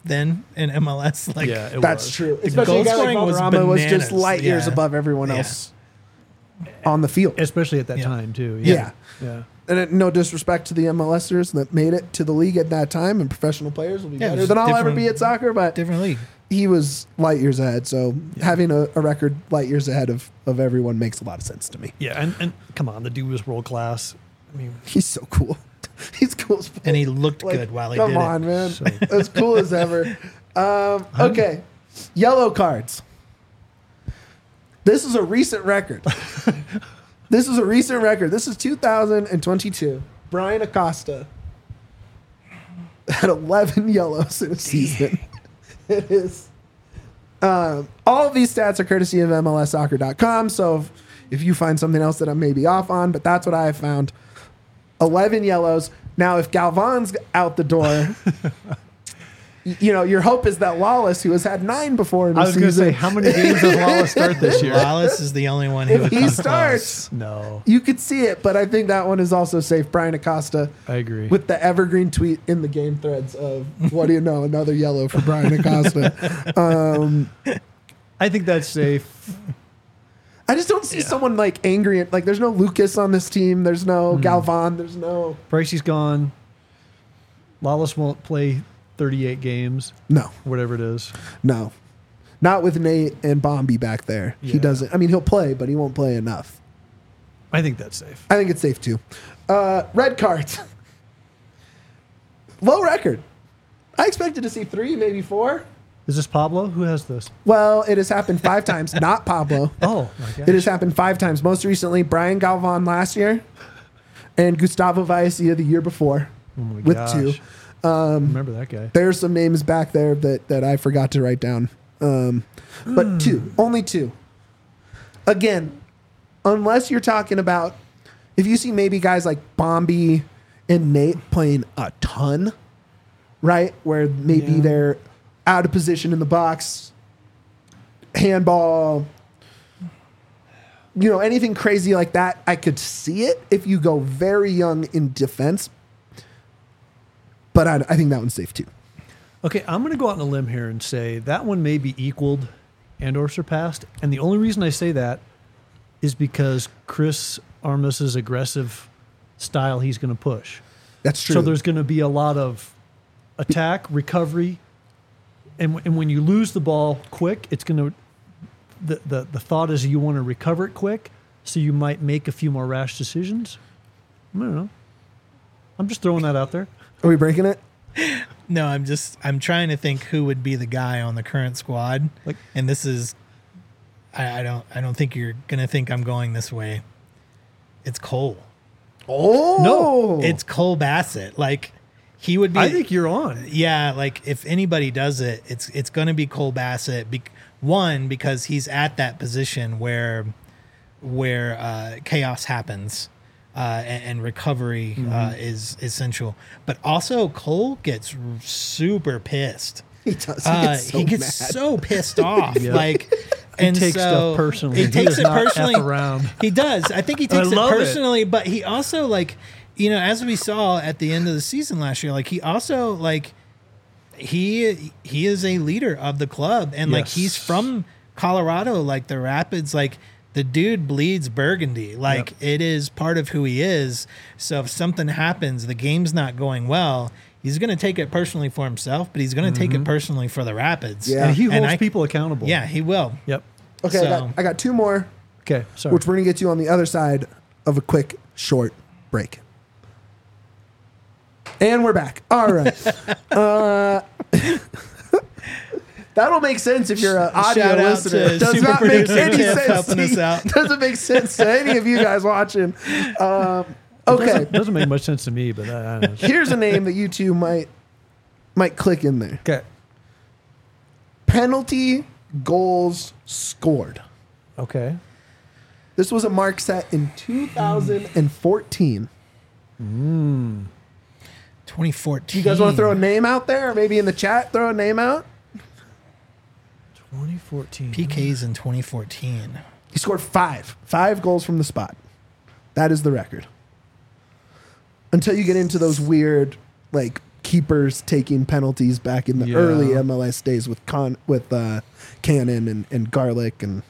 then in MLS. Like, yeah, it That's was. true. Especially a guy like scoring was Valderrama was just bananas. light years Yeah. above everyone Yeah. else on the field. Especially at that Yeah. time too. Yeah. Yeah. And no disrespect to the MLSers that made it to the league at that time, and professional players will be Yeah, it better was than I'll ever different- be at soccer, but different league. he was light years ahead. So having a record light years ahead of everyone makes a lot of sense to me. Yeah. And come on, the dude was world class. I mean, He's so cool. He's cool as fuck. And he looked Like, good while he come did on, it. man. So- As cool as ever. Okay. Yellow cards. This is a recent record. This is 2022. Brian Acosta had 11 yellows in a season. It is. All of these stats are courtesy of MLSsoccer.com. So if you find something else that I may be off on, but that's what I have found. 11 yellows. Now, if Galvan's out the door, your hope is that Lawless, who has had 9 before in the I was going to season, say, how many games does Lawless start this year? Wallace is the only one who if would he come starts, No, you could see it. But I think that one is also safe. Brian Acosta I agree. with the evergreen tweet in the game threads of, what do you know, another yellow for Brian Acosta. I think that's safe. I just don't see someone like angry. Like, there's no Lucas on this team. There's no Galvan. There's no. Pricey's gone. Lawless won't play 38 games, No. whatever it is. No. Not with Nate and Bombi back there. He Yeah. doesn't. I mean, he'll play, but he won't play enough. I think that's safe. I think it's safe too. Red cards. Low record. I expected to see 3, maybe 4. Is this Pablo? Who has this? Well, it has happened 5 times. Not Pablo. Oh, my gosh. It has happened 5 times. Most recently, Brian Galvan last year and Gustavo Vallecilla the year before Oh my with gosh. 2. Remember that guy. There's some names back there that I forgot to write down. But 2. Only 2. Again, unless you're talking about, if you see maybe guys like Bombi and Nate playing a ton, right? Where maybe Yeah. they're out of position in the box, handball, anything crazy like that, I could see it if you go very young in defense. But I think that one's safe too. Okay, I'm going to go out on a limb here and say that one may be equaled and or surpassed. And the only reason I say that is because Chris Armas's aggressive style he's going to push. That's true. So there's going to be a lot of attack, recovery, and when you lose the ball quick, it's going to the thought is you want to recover it quick, so you might make a few more rash decisions. I don't know. I'm just throwing that out there. Are we breaking it? No, I'm trying to think who would be the guy on the current squad. Like- and this is, I don't think you're gonna think I'm going this way. It's Cole. Oh No. It's Cole Bassett. Like, he would be. I think you're on. Yeah, like if anybody does it, it's going to be Cole Bassett. One, because he's at that position where chaos happens, and recovery is essential. But also, Cole gets super pissed. He does. He gets so pissed off. Yeah. Like, He and takes so stuff personally. He He takes does it not F personally. around. He does. I think he I takes it love it. personally, but he also, like, as we saw at the end of the season last year, like, he also, like, he is a leader of the club, and like, Yes. he's from Colorado, like the Rapids, like, the dude bleeds burgundy. Like, Yep. it is part of who he is. So if something happens, the game's not going well, he's going to take it personally for himself, but he's going to take it personally for the Rapids. Yeah. And he holds I- people accountable. Yeah, he will. Yep. Okay, So- I got 2 more, Okay. Sorry. which we're going to get to on the other side of a quick, short break. And we're back. All right. That'll make sense if you're an audio Shout out listener. to It does super not make producer any Tiff sense. helping us out. Doesn't make sense to any of you guys watching. Okay, Doesn't make much sense to me, but I don't know. here's a name that you two might click in there. Okay. Penalty goals scored. Okay. This was a mark set in 2014. 2014. You guys want to throw a name out there, or maybe in the chat throw a name out? 2014. PKs in 2014. He scored 5 goals from the spot. That is the record. Until you get into those weird, like, keepers taking penalties back in the Yeah. early MLS days with Cannon and Garlic and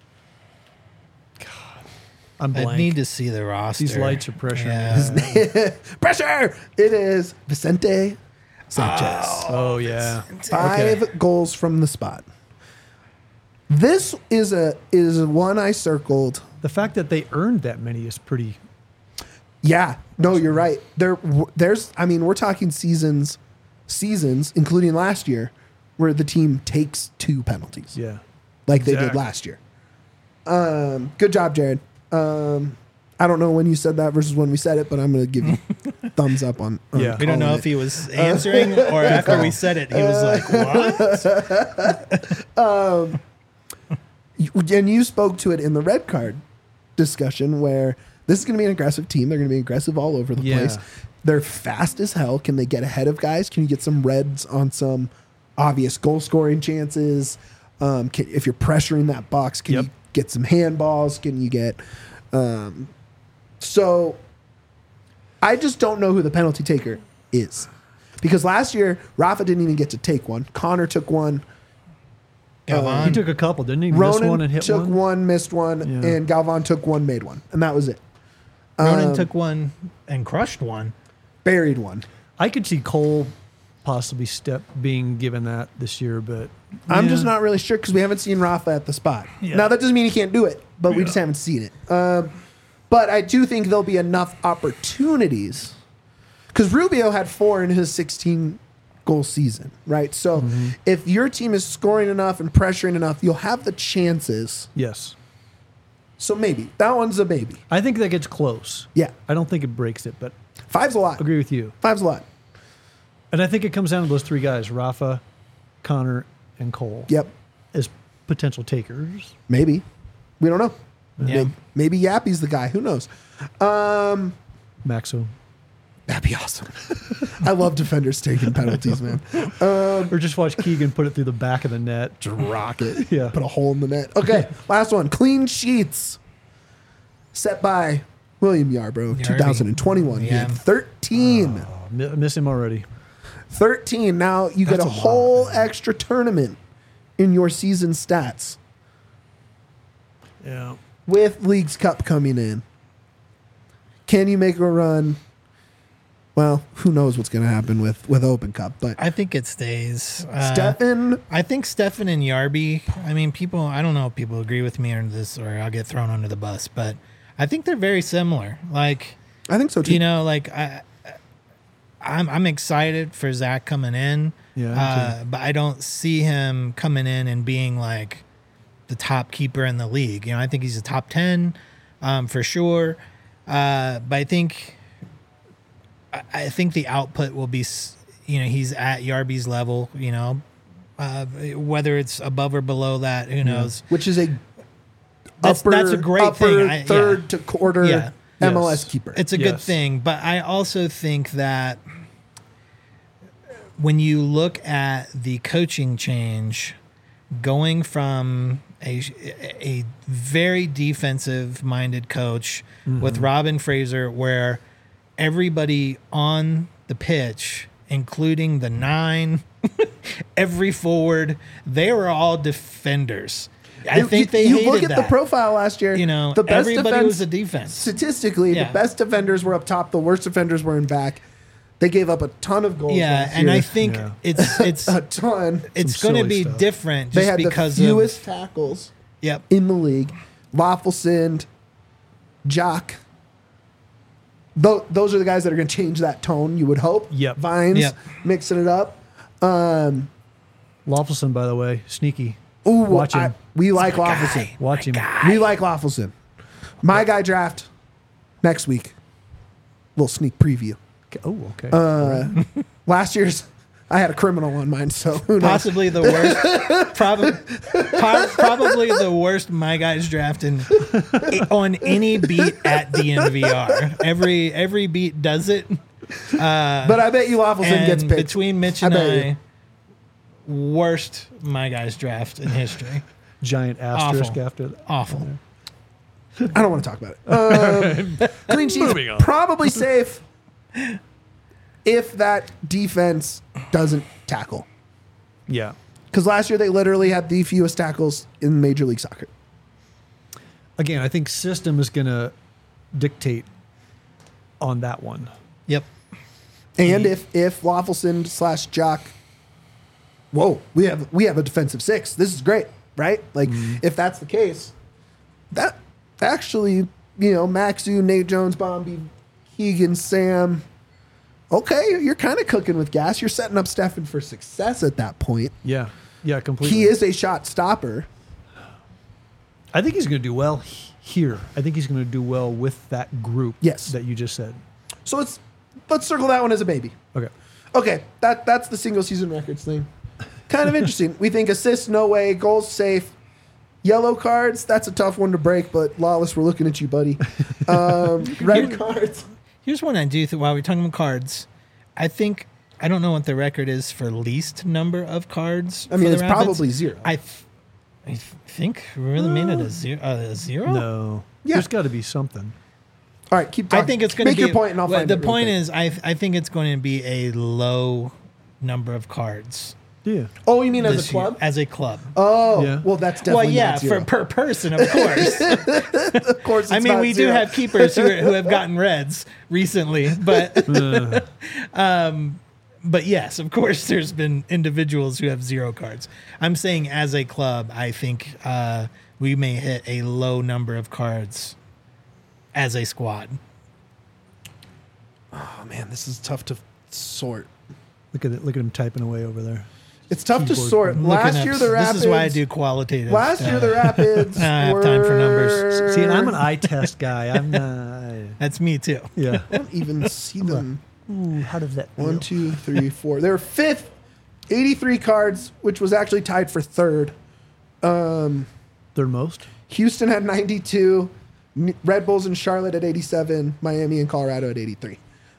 I'm I blank. need to see the roster. These lights are pressuring Yeah. pressure. It is Vicente Sanchez. Oh yeah. 5 goals from the spot. This is one I circled. The fact that they earned that many is pretty. Yeah, no, you're right. There's, I mean, we're talking seasons, including last year, where the team takes 2 penalties, Yeah. like they did Exactly. last year. Good job, Jared. I don't know when you said that versus when we said it, but I'm going to give you thumbs up on Yeah. We don't know calling if it. he was answering or after we said it, he was like, "What?" And you spoke to it in the red card discussion where this is going to be an aggressive team. They're going to be aggressive all over the Yeah. place. They're fast as hell. Can they get ahead of guys? Can you get some reds on some obvious goal scoring chances? If you're pressuring that box, can Yep. you get some handballs? Can you get... so I just don't know who the penalty taker is. Because last year, Rafa didn't even get to take one. Connor took one. Galvan. He took a couple, didn't he? Missed one Ronan and hit took one. one, missed one, Yeah. and Galvan took one, made one. And that was it. Ronan took one and crushed one. Buried one. I could see Cole possibly being given that this year, but I'm yeah. just not really sure because we haven't seen Rafa at the spot. Yeah. Now, that doesn't mean he can't do it, but we Yeah. just haven't seen it. But I do think there'll be enough opportunities because Rubio had 4 in his 16-goal season, right? So if your team is scoring enough and pressuring enough, you'll have the chances. Yes. So maybe. That one's a maybe. I think that gets close. Yeah. I don't think it breaks it, but 5's a lot. agree with you. 5's a lot. And I think it comes down to those 3 guys, Rafa, Connor, and Cole, Yep. as potential takers. Maybe. We don't know. Yeah. Maybe Yappy's the guy. Who knows? Maxo. That'd be awesome. I love defenders taking penalties, man. Or just watch Keegan put it through the back of the net. Just rock it. Yeah. Put a hole in the net. Okay, last one. Clean sheets. Set by William Yarbrough, Yarby. 2021. He Yeah. had 13. Miss him already. 13. Now you get That's a a lot, whole extra tournament in your season stats Yeah. with Leagues Cup coming in. Can you make a run? Well, who knows what's going to happen with Open Cup, but I think it stays. Stefan, I think Stefan and Yarby, I mean, people, I don't know if people agree with me on this or I'll get thrown under the bus, but I think they're very similar. Like, I think so too. you know, like I'm excited for Zach coming in, Yeah, me but I don't see him coming in and being like the top keeper in the league. You know, I think he's a top 10 for sure. But I think the output will be, you know, he's at Yarby's level, you know, whether it's above or below that, who knows? which is a That's a great thing. third to quarter Yeah. MLS Yes. keeper. It's a good Yes. thing, but I also think that when you look at the coaching change, going from a very defensive minded coach with Robin Fraser, where everybody on the pitch, including the 9, every forward, they were all defenders. I think they you hated look at that. the profile last year. You know, the best everybody defense, was a defense. statistically, Yeah. the best defenders were up top. The worst defenders were in back. They gave up a ton of goals. Yeah, last and year. I think Yeah. it's a ton. it's Some going to silly be stuff. different They just had the because fewest of tackles yep. in the league. Wafflesend, Jock. Those are the guys that are going to change that tone. You would hope. Yep. Vines Yep. mixing it up. Lawfulson, by the way, sneaky. Ooh, Watch him. we like Waffleson. Watch him. We like Waffleson. My guy draft next week. Little sneak preview. Oh, okay. Last year's, I had a criminal on mine, so who knows? Possibly the worst, probably the worst my guys drafting on any beat at DNVR. Every beat does it. But I bet you Waffleson gets And picked. between Mitch and I bet I, worst my guys draft in history. Giant asterisk Awful. after that. Awful. I don't want to talk about it. Clean sheets, Moving on. probably safe. if that defense doesn't tackle. Yeah. Because last year they literally had the fewest tackles in Major League Soccer. Again, I think system is going to dictate on that one. Yep. And if Loffelson / Jock, whoa, we have a defensive six. This is great, right? Like if that's the case, that actually, Maxu, Nate Jones, Bombi, Keegan, Sam. Okay, you're kind of cooking with gas. You're setting up Stefan for success at that point. Yeah. Yeah, completely. He is a shot stopper. I think he's going to do well here. I think he's going to do well with that group Yes. that you just said. So let's circle that one as a baby. Okay. Okay, that's the single season records thing. Kind of interesting. We think assists, no way. Goals, safe. Yellow cards, that's a tough one to break, but Lawless, we're looking at you, buddy. Red cards. Here's one I do while we're talking about cards. I don't know what the record is for least number of cards. I mean, for the it's Rapids. probably 0. I think we really made it a zero. No. Yeah. There's got to be something. All right, keep talking. I think it's going to Make be your point, and I'll find the it real point quick. is, I think it's going to be a low number of cards. Yeah. Oh, you mean as this a club? year, as a club. Oh, Yeah. well, that's Well, definitely yeah, not 0. per person, of course. Of course, it's I mean, not we 0. do have keepers who have gotten reds recently, but but yes, of course, there's been individuals who have 0 cards. I'm saying as a club, I think we may hit a low number of cards as a squad. Oh man, this is tough to sort. Look at it. Look at him typing away over there. It's tough to Keyboard. sort. I'm Last looking year up- the Rapids. This is why I do qualitative. Last year the Rapids. I have time for numbers. See, and I'm an eye test guy. I'm not. That's me too. Yeah. I don't even see them. Ooh, how does that feel? 1, 2, 3, 4. They were 5th, 83 cards, which was actually tied for 3rd. Third most? Houston had 92. Red Bulls and Charlotte at 87. Miami and Colorado at 83.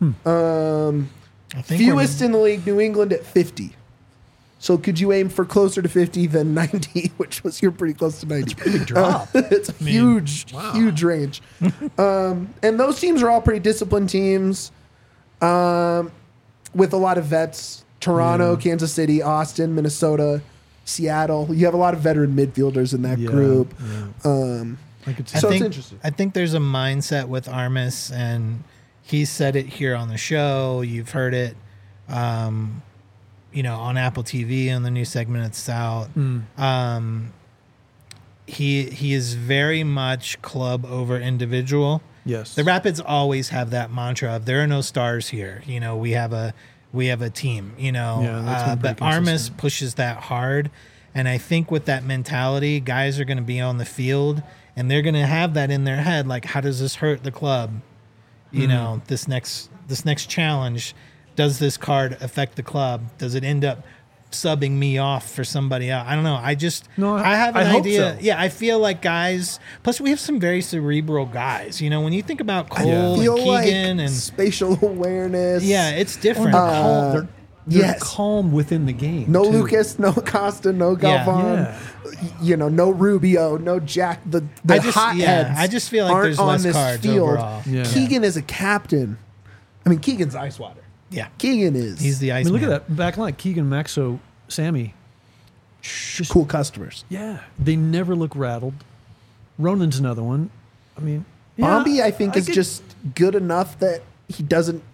I think Fewest in the league, New England at 50. So could you aim for closer to 50 than 90, which was you're pretty close to 90. Pretty big drop. It's a huge range. And those teams are all pretty disciplined teams with a lot of vets. Toronto, Kansas City, Austin, Minnesota, Seattle. You have a lot of veteran midfielders in that Yeah, group. yeah. I could see. So I it's think, interesting. I think there's a mindset with Armis, and he said it here on the show. You've heard it, on Apple TV on the new segment it's out. He is very much club over individual. Yes. The Rapids always have that mantra of there are no stars here. We have a team. Yeah, that's been but pretty Armis consistent. pushes that hard, and I think with that mentality, guys are going to be on the field and they're going to have that in their head. Like, how does this hurt the club? This next challenge, does this card affect the club? Does it end up subbing me off for somebody else? I don't know. I have an I hope idea. so. Yeah, I feel like guys. Plus, we have some very cerebral guys. When you think about Cole I feel and like Keegan and spatial awareness. yeah, it's different. They're yes. calm within the game. No too. Lucas, no Costa, no Galvan. Yeah. No Rubio, no Jack. The hotheads. I just feel like aren't there's on less this cards field. overall. Yeah. Keegan is a captain. I mean, Keegan's ice water. Yeah, Keegan is. he's the I ice. mean, look at that back line. Keegan, Maxo, Sammy. cool customers. Yeah. They never look rattled. Ronan's another one. I mean, yeah, Bombi, I think, is could- just good enough that he doesn't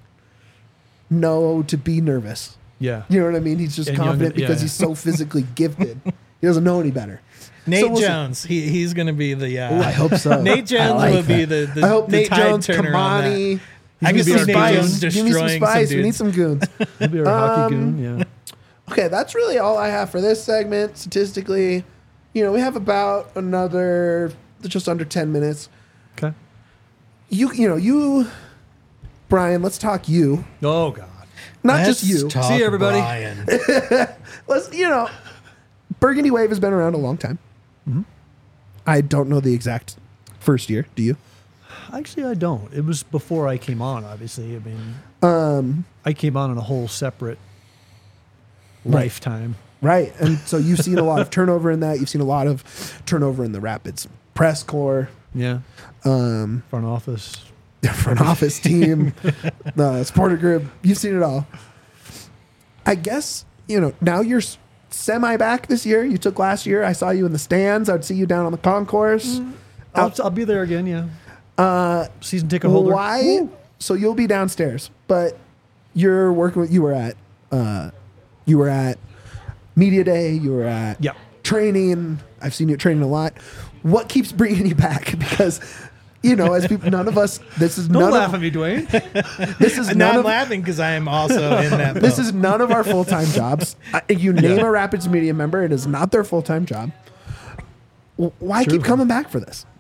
know to be nervous. Yeah. You know what I mean? He's just And confident young- yeah. because he's so physically gifted. He doesn't know any better. Nate So we'll see. Jones. He's going to be the. Oh, I hope so. Nate Jones I like will be that. the I hope the Nate tide Jones, turner on that. Kamani. I Give can me see some Nate spice. Jones Give me some destroying some spice. We need dudes. some goons. He'll be our hockey goon. Yeah. Okay, that's really all I have for this segment. Statistically, we have about another just under 10 minutes. Okay. You, Brian, let's talk you. Oh, God. Not Let's just you. talk See you, everybody. Brian. Let's, Burgundy Wave has been around a long time. Mm-hmm. I don't know the exact first year. Do you? Actually, I don't. It was before I came on, obviously. I mean, I came on in a whole separate lifetime. Right. And so you've seen a lot of turnover in that. You've seen a lot of turnover in the Rapids press corps. Yeah. Um, Front office. front office team, the supporter group. You've seen it all. I guess, now you're semi back this year. You took last year. I saw you in the stands. I'd see you down on the concourse. I'll be there again. Yeah. Season ticket holder. Why? Woo. So you'll be downstairs, but you're working with. You were at media day. You were at training. I've seen you at training a lot. What keeps bringing you back? Because as people, none of us. This is Don't laugh at me, Dwayne. This is I'm laughing because I am also in that. This boat. is none of our full time jobs. You name a Rapids media member, it is not their full time job. Why keep coming back for this?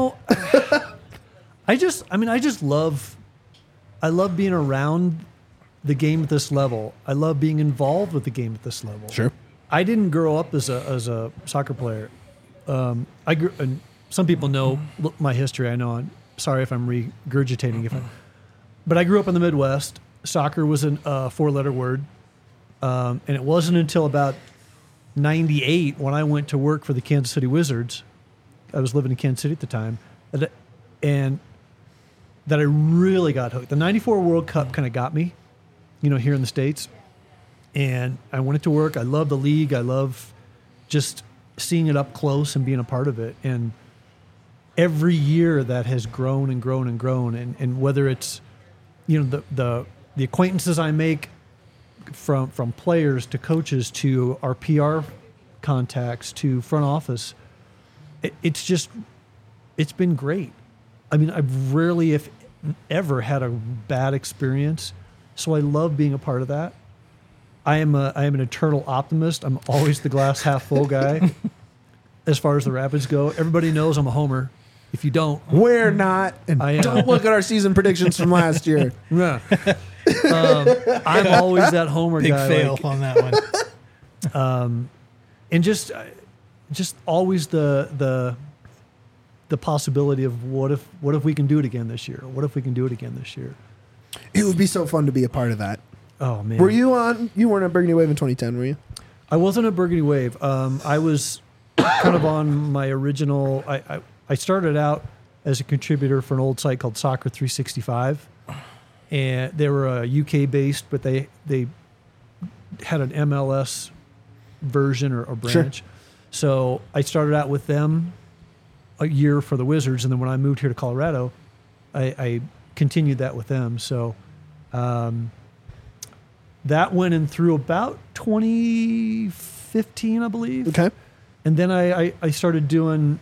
I just love being around the game at this level. I love being involved with the game at this level. Sure. I didn't grow up as a soccer player. I grew, and some people know my history. I know. I'm sorry if I'm regurgitating. But I grew up in the Midwest. Soccer was a 4-letter word, and it wasn't until about '98 when I went to work for the Kansas City Wizards. I was living in Kansas City at the time, and that I really got hooked. The '94 World Cup kind of got me, here in the States. And I went to work. I love the league. I love just seeing it up close and being a part of it. And every year that has grown and grown and grown. And whether it's, the acquaintances I make from players to coaches to our PR contacts to front office, it's been great. I mean, I've rarely, if ever, had a bad experience. So I love being a part of that. I am an eternal optimist. I'm always the glass half full guy as far as the Rapids go. Everybody knows I'm a homer. If you don't, we're not. And don't look at our season predictions from last year. Yeah. I'm always that homer Big guy. Big fail on that one. And just always the possibility of what if we can do it again this year? What if we can do it again this year? It would be so fun to be a part of that. Oh man! You weren't at Burgundy Wave in 2010, were you? I wasn't at Burgundy Wave. I was kind of on my original. I started out as a contributor for an old site called Soccer 365, and they were UK based, but they had an MLS version or branch. Sure. So I started out with them a year for the Wizards, and then when I moved here to Colorado, I continued that with them. So. That went in through about 2015, I believe. Okay. And then I started doing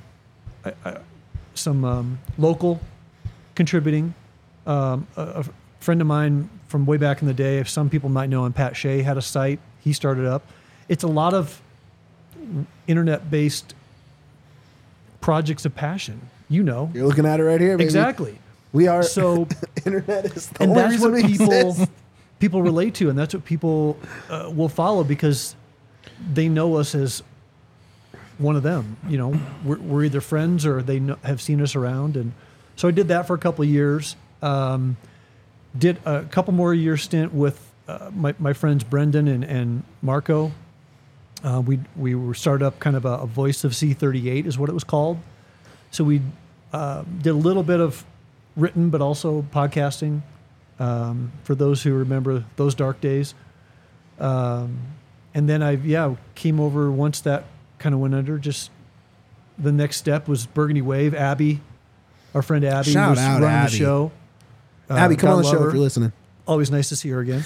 some local contributing. A friend of mine from way back in the day, if some people might know him, Pat Shea, had a site. He started up. It's a lot of internet-based projects of passion. You're looking at it right here, baby. Exactly. We are. So internet is the and only that's what reason people relate to, and that's what people will follow because they know us as one of them. We're either friends or they have seen us around, and so I did that for a couple of years. Did a couple more year stint with my friends Brendan and Marco. We were started up kind of a Voice of C38 is what it was called. So we did a little bit of written, but also podcasting. For those who remember those dark days. And then I came over once that kind of went under. Just the next step was Burgundy Wave. Abby, our friend Abby, Shout was out running Abby. the show. Abby, come on the show her. if you're listening. Always nice to see her again.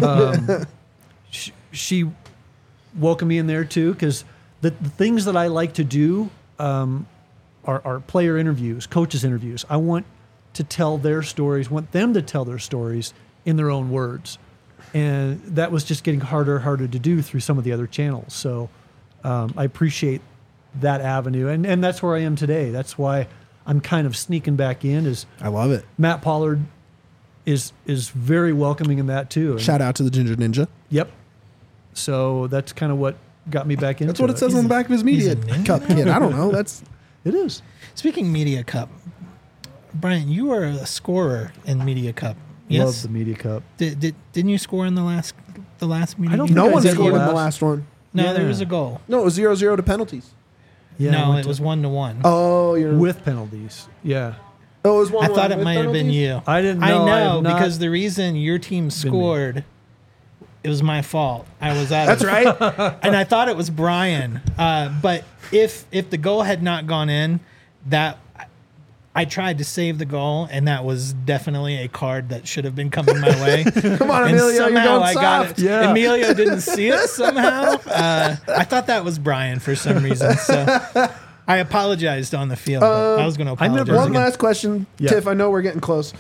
She welcomed me in there too because the things that I like to do are player interviews, coaches interviews. I want to tell their stories, want them to tell their stories in their own words. And that was just getting harder and harder to do through some of the other channels. So I appreciate that avenue. And that's where I am today. That's why I'm kind of sneaking back in. I love it. Matt Pollard is very welcoming in that too. And shout out to the Ginger Ninja. Yep. So that's kind of what got me back into it. That's what it says on the back of his media cup kit. I don't know. It is. Speaking Media Cup, Brian, you were a scorer in Media Cup. Yes? Love the Media Cup. Didn't you score in the last Media? I don't Cup? No think one I did scored in the the last- last one. No, Yeah. there was a goal. No, it was 0-0 to penalties. Yeah, no, I went it to- was 1-1. Oh, you're with penalties. Yeah. Oh, it was 1-1 I thought it with might have been penalties? you. I didn't know. I I know have not because the reason your team scored, it was my fault. I was out. That's of, right. and I thought it was Brian. But if the goal had not gone in, that I tried to save the goal, and that was definitely a card that should have been coming my way. Come on, And Emilio, you're somehow going I got soft. it. Yeah. Emilio didn't see it somehow. I thought that was Brian for some reason. So I apologized on the field. But I was going to I never- apologize. One again. last question, Yeah. Tiff. I know we're getting close.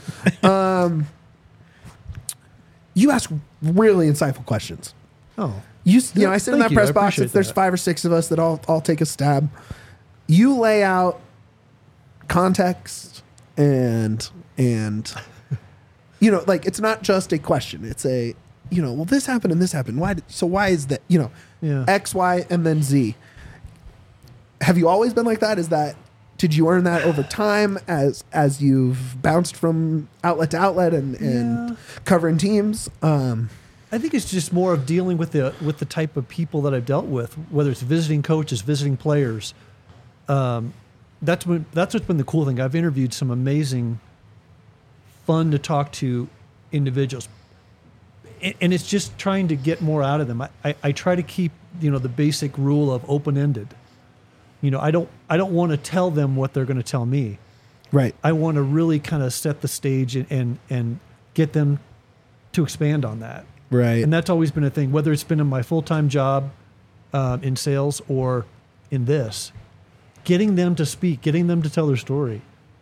You ask really insightful questions. Oh, You know, I sit in Thank that you. press I box. appreciate If there's that. 5 or 6 of us that all take a stab. You lay out context and you know, like it's not just a question. It's a, you know, well, this happened and this happened. Why is that? You know, Yeah. X, Y, and then Z. Have you always been like that? Did you earn that over time as you've bounced from outlet to outlet and covering teams? I think it's just more of dealing with the type of people that I've dealt with, whether it's visiting coaches, visiting players. That's what's been the cool thing. I've interviewed some amazing, fun to talk to individuals, and it's just trying to get more out of them. I try to keep the basic rule of open ended. I don't want to tell them what they're going to tell me. Right. I want to really kind of set the stage and get them to expand on that. Right. And that's always been a thing, whether it's been in my full-time job in sales or in this, getting them to speak, getting them to tell their story.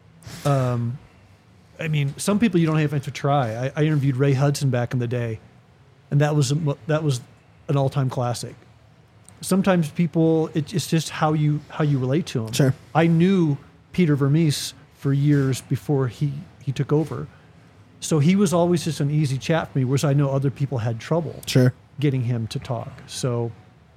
I mean, some people you don't even have to try. I interviewed Ray Hudson back in the day, and that was an all-time classic. Sometimes people, it's just how you relate to them. Sure. I knew Peter Vermees for years before he took over. So he was always just an easy chat for me, whereas I know other people had trouble Sure. getting him to talk. So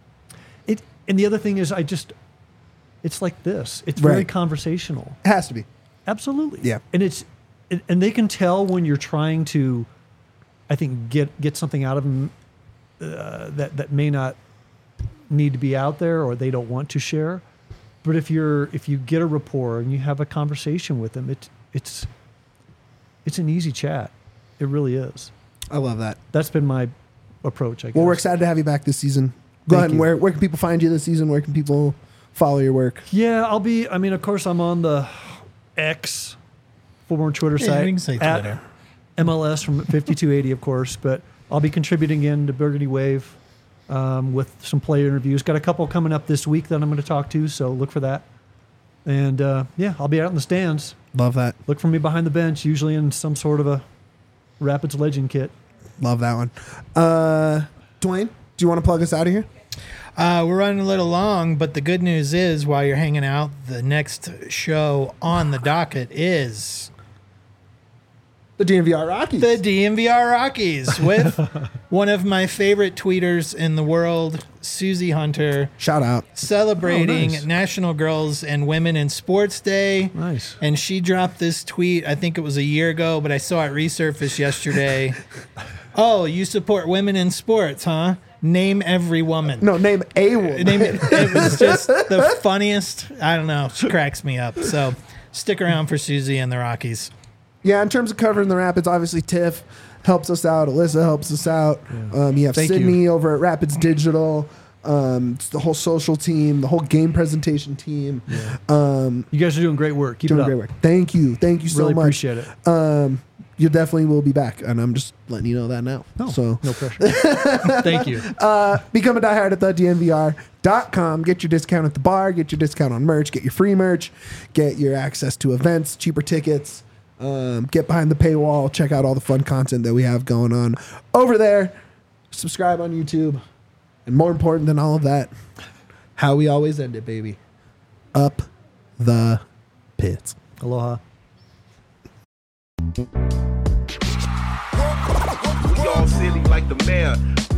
and the other thing is it's like this. It's very Right. conversational. It has to be. Absolutely. Yeah. And they can tell when you're trying to, I think, get something out of them that may not need to be out there or they don't want to share. But if you get a rapport and you have a conversation with them, it's an easy chat. It really is. I love that. That's been my approach, I guess. Well, we're excited to have you back this season. Go Thank ahead. And you. where can people find you this season? Where can people follow your work? Yeah, of course, I'm on the X, former Twitter Yeah, site. we can say at Twitter. MLS from 5280, of course. But I'll be contributing in to Burgundy Wave with some player interviews. Got a couple coming up this week that I'm going to talk to, so look for that. And I'll be out in the stands. Love that. Look for me behind the bench, usually in some sort of a Rapids Legend kit. Love that one. Dwayne, do you want to plug us out of here? We're running a little long, but the good news is while you're hanging out, the next show on the docket is The DMVR Rockies. the DMVR Rockies with one of my favorite tweeters in the world, Susie Hunter, Shout out. celebrating Oh, nice. National Girls and Women in Sports Day. Nice. And she dropped this tweet, I think it was a year ago, but I saw it resurface yesterday. Oh, you support women in sports, huh? Name every woman. No, name a woman. It was just the funniest. I don't know. She cracks me up. So stick around for Susie and the Rockies. Yeah, in terms of covering the Rapids, obviously Tiff helps us out. Alyssa helps us out. You have Thank Sydney you. over at Rapids Digital. It's the whole social team, the whole game presentation team. You guys are doing great work. Keep Doing it up. great work. Thank you so Really much. appreciate it. You definitely will be back, and I'm just letting you know that now. So No pressure. Thank you. become a diehard at thedmvr.com. Get your discount at the bar. Get your discount on merch. Get your free merch. Get your access to events, cheaper tickets. Get behind the paywall. Check out all the fun content that we have going on over there. Subscribe on YouTube. And more important than all of that, how we always end it, baby. Up the pits. Aloha. We all silly like the mayor.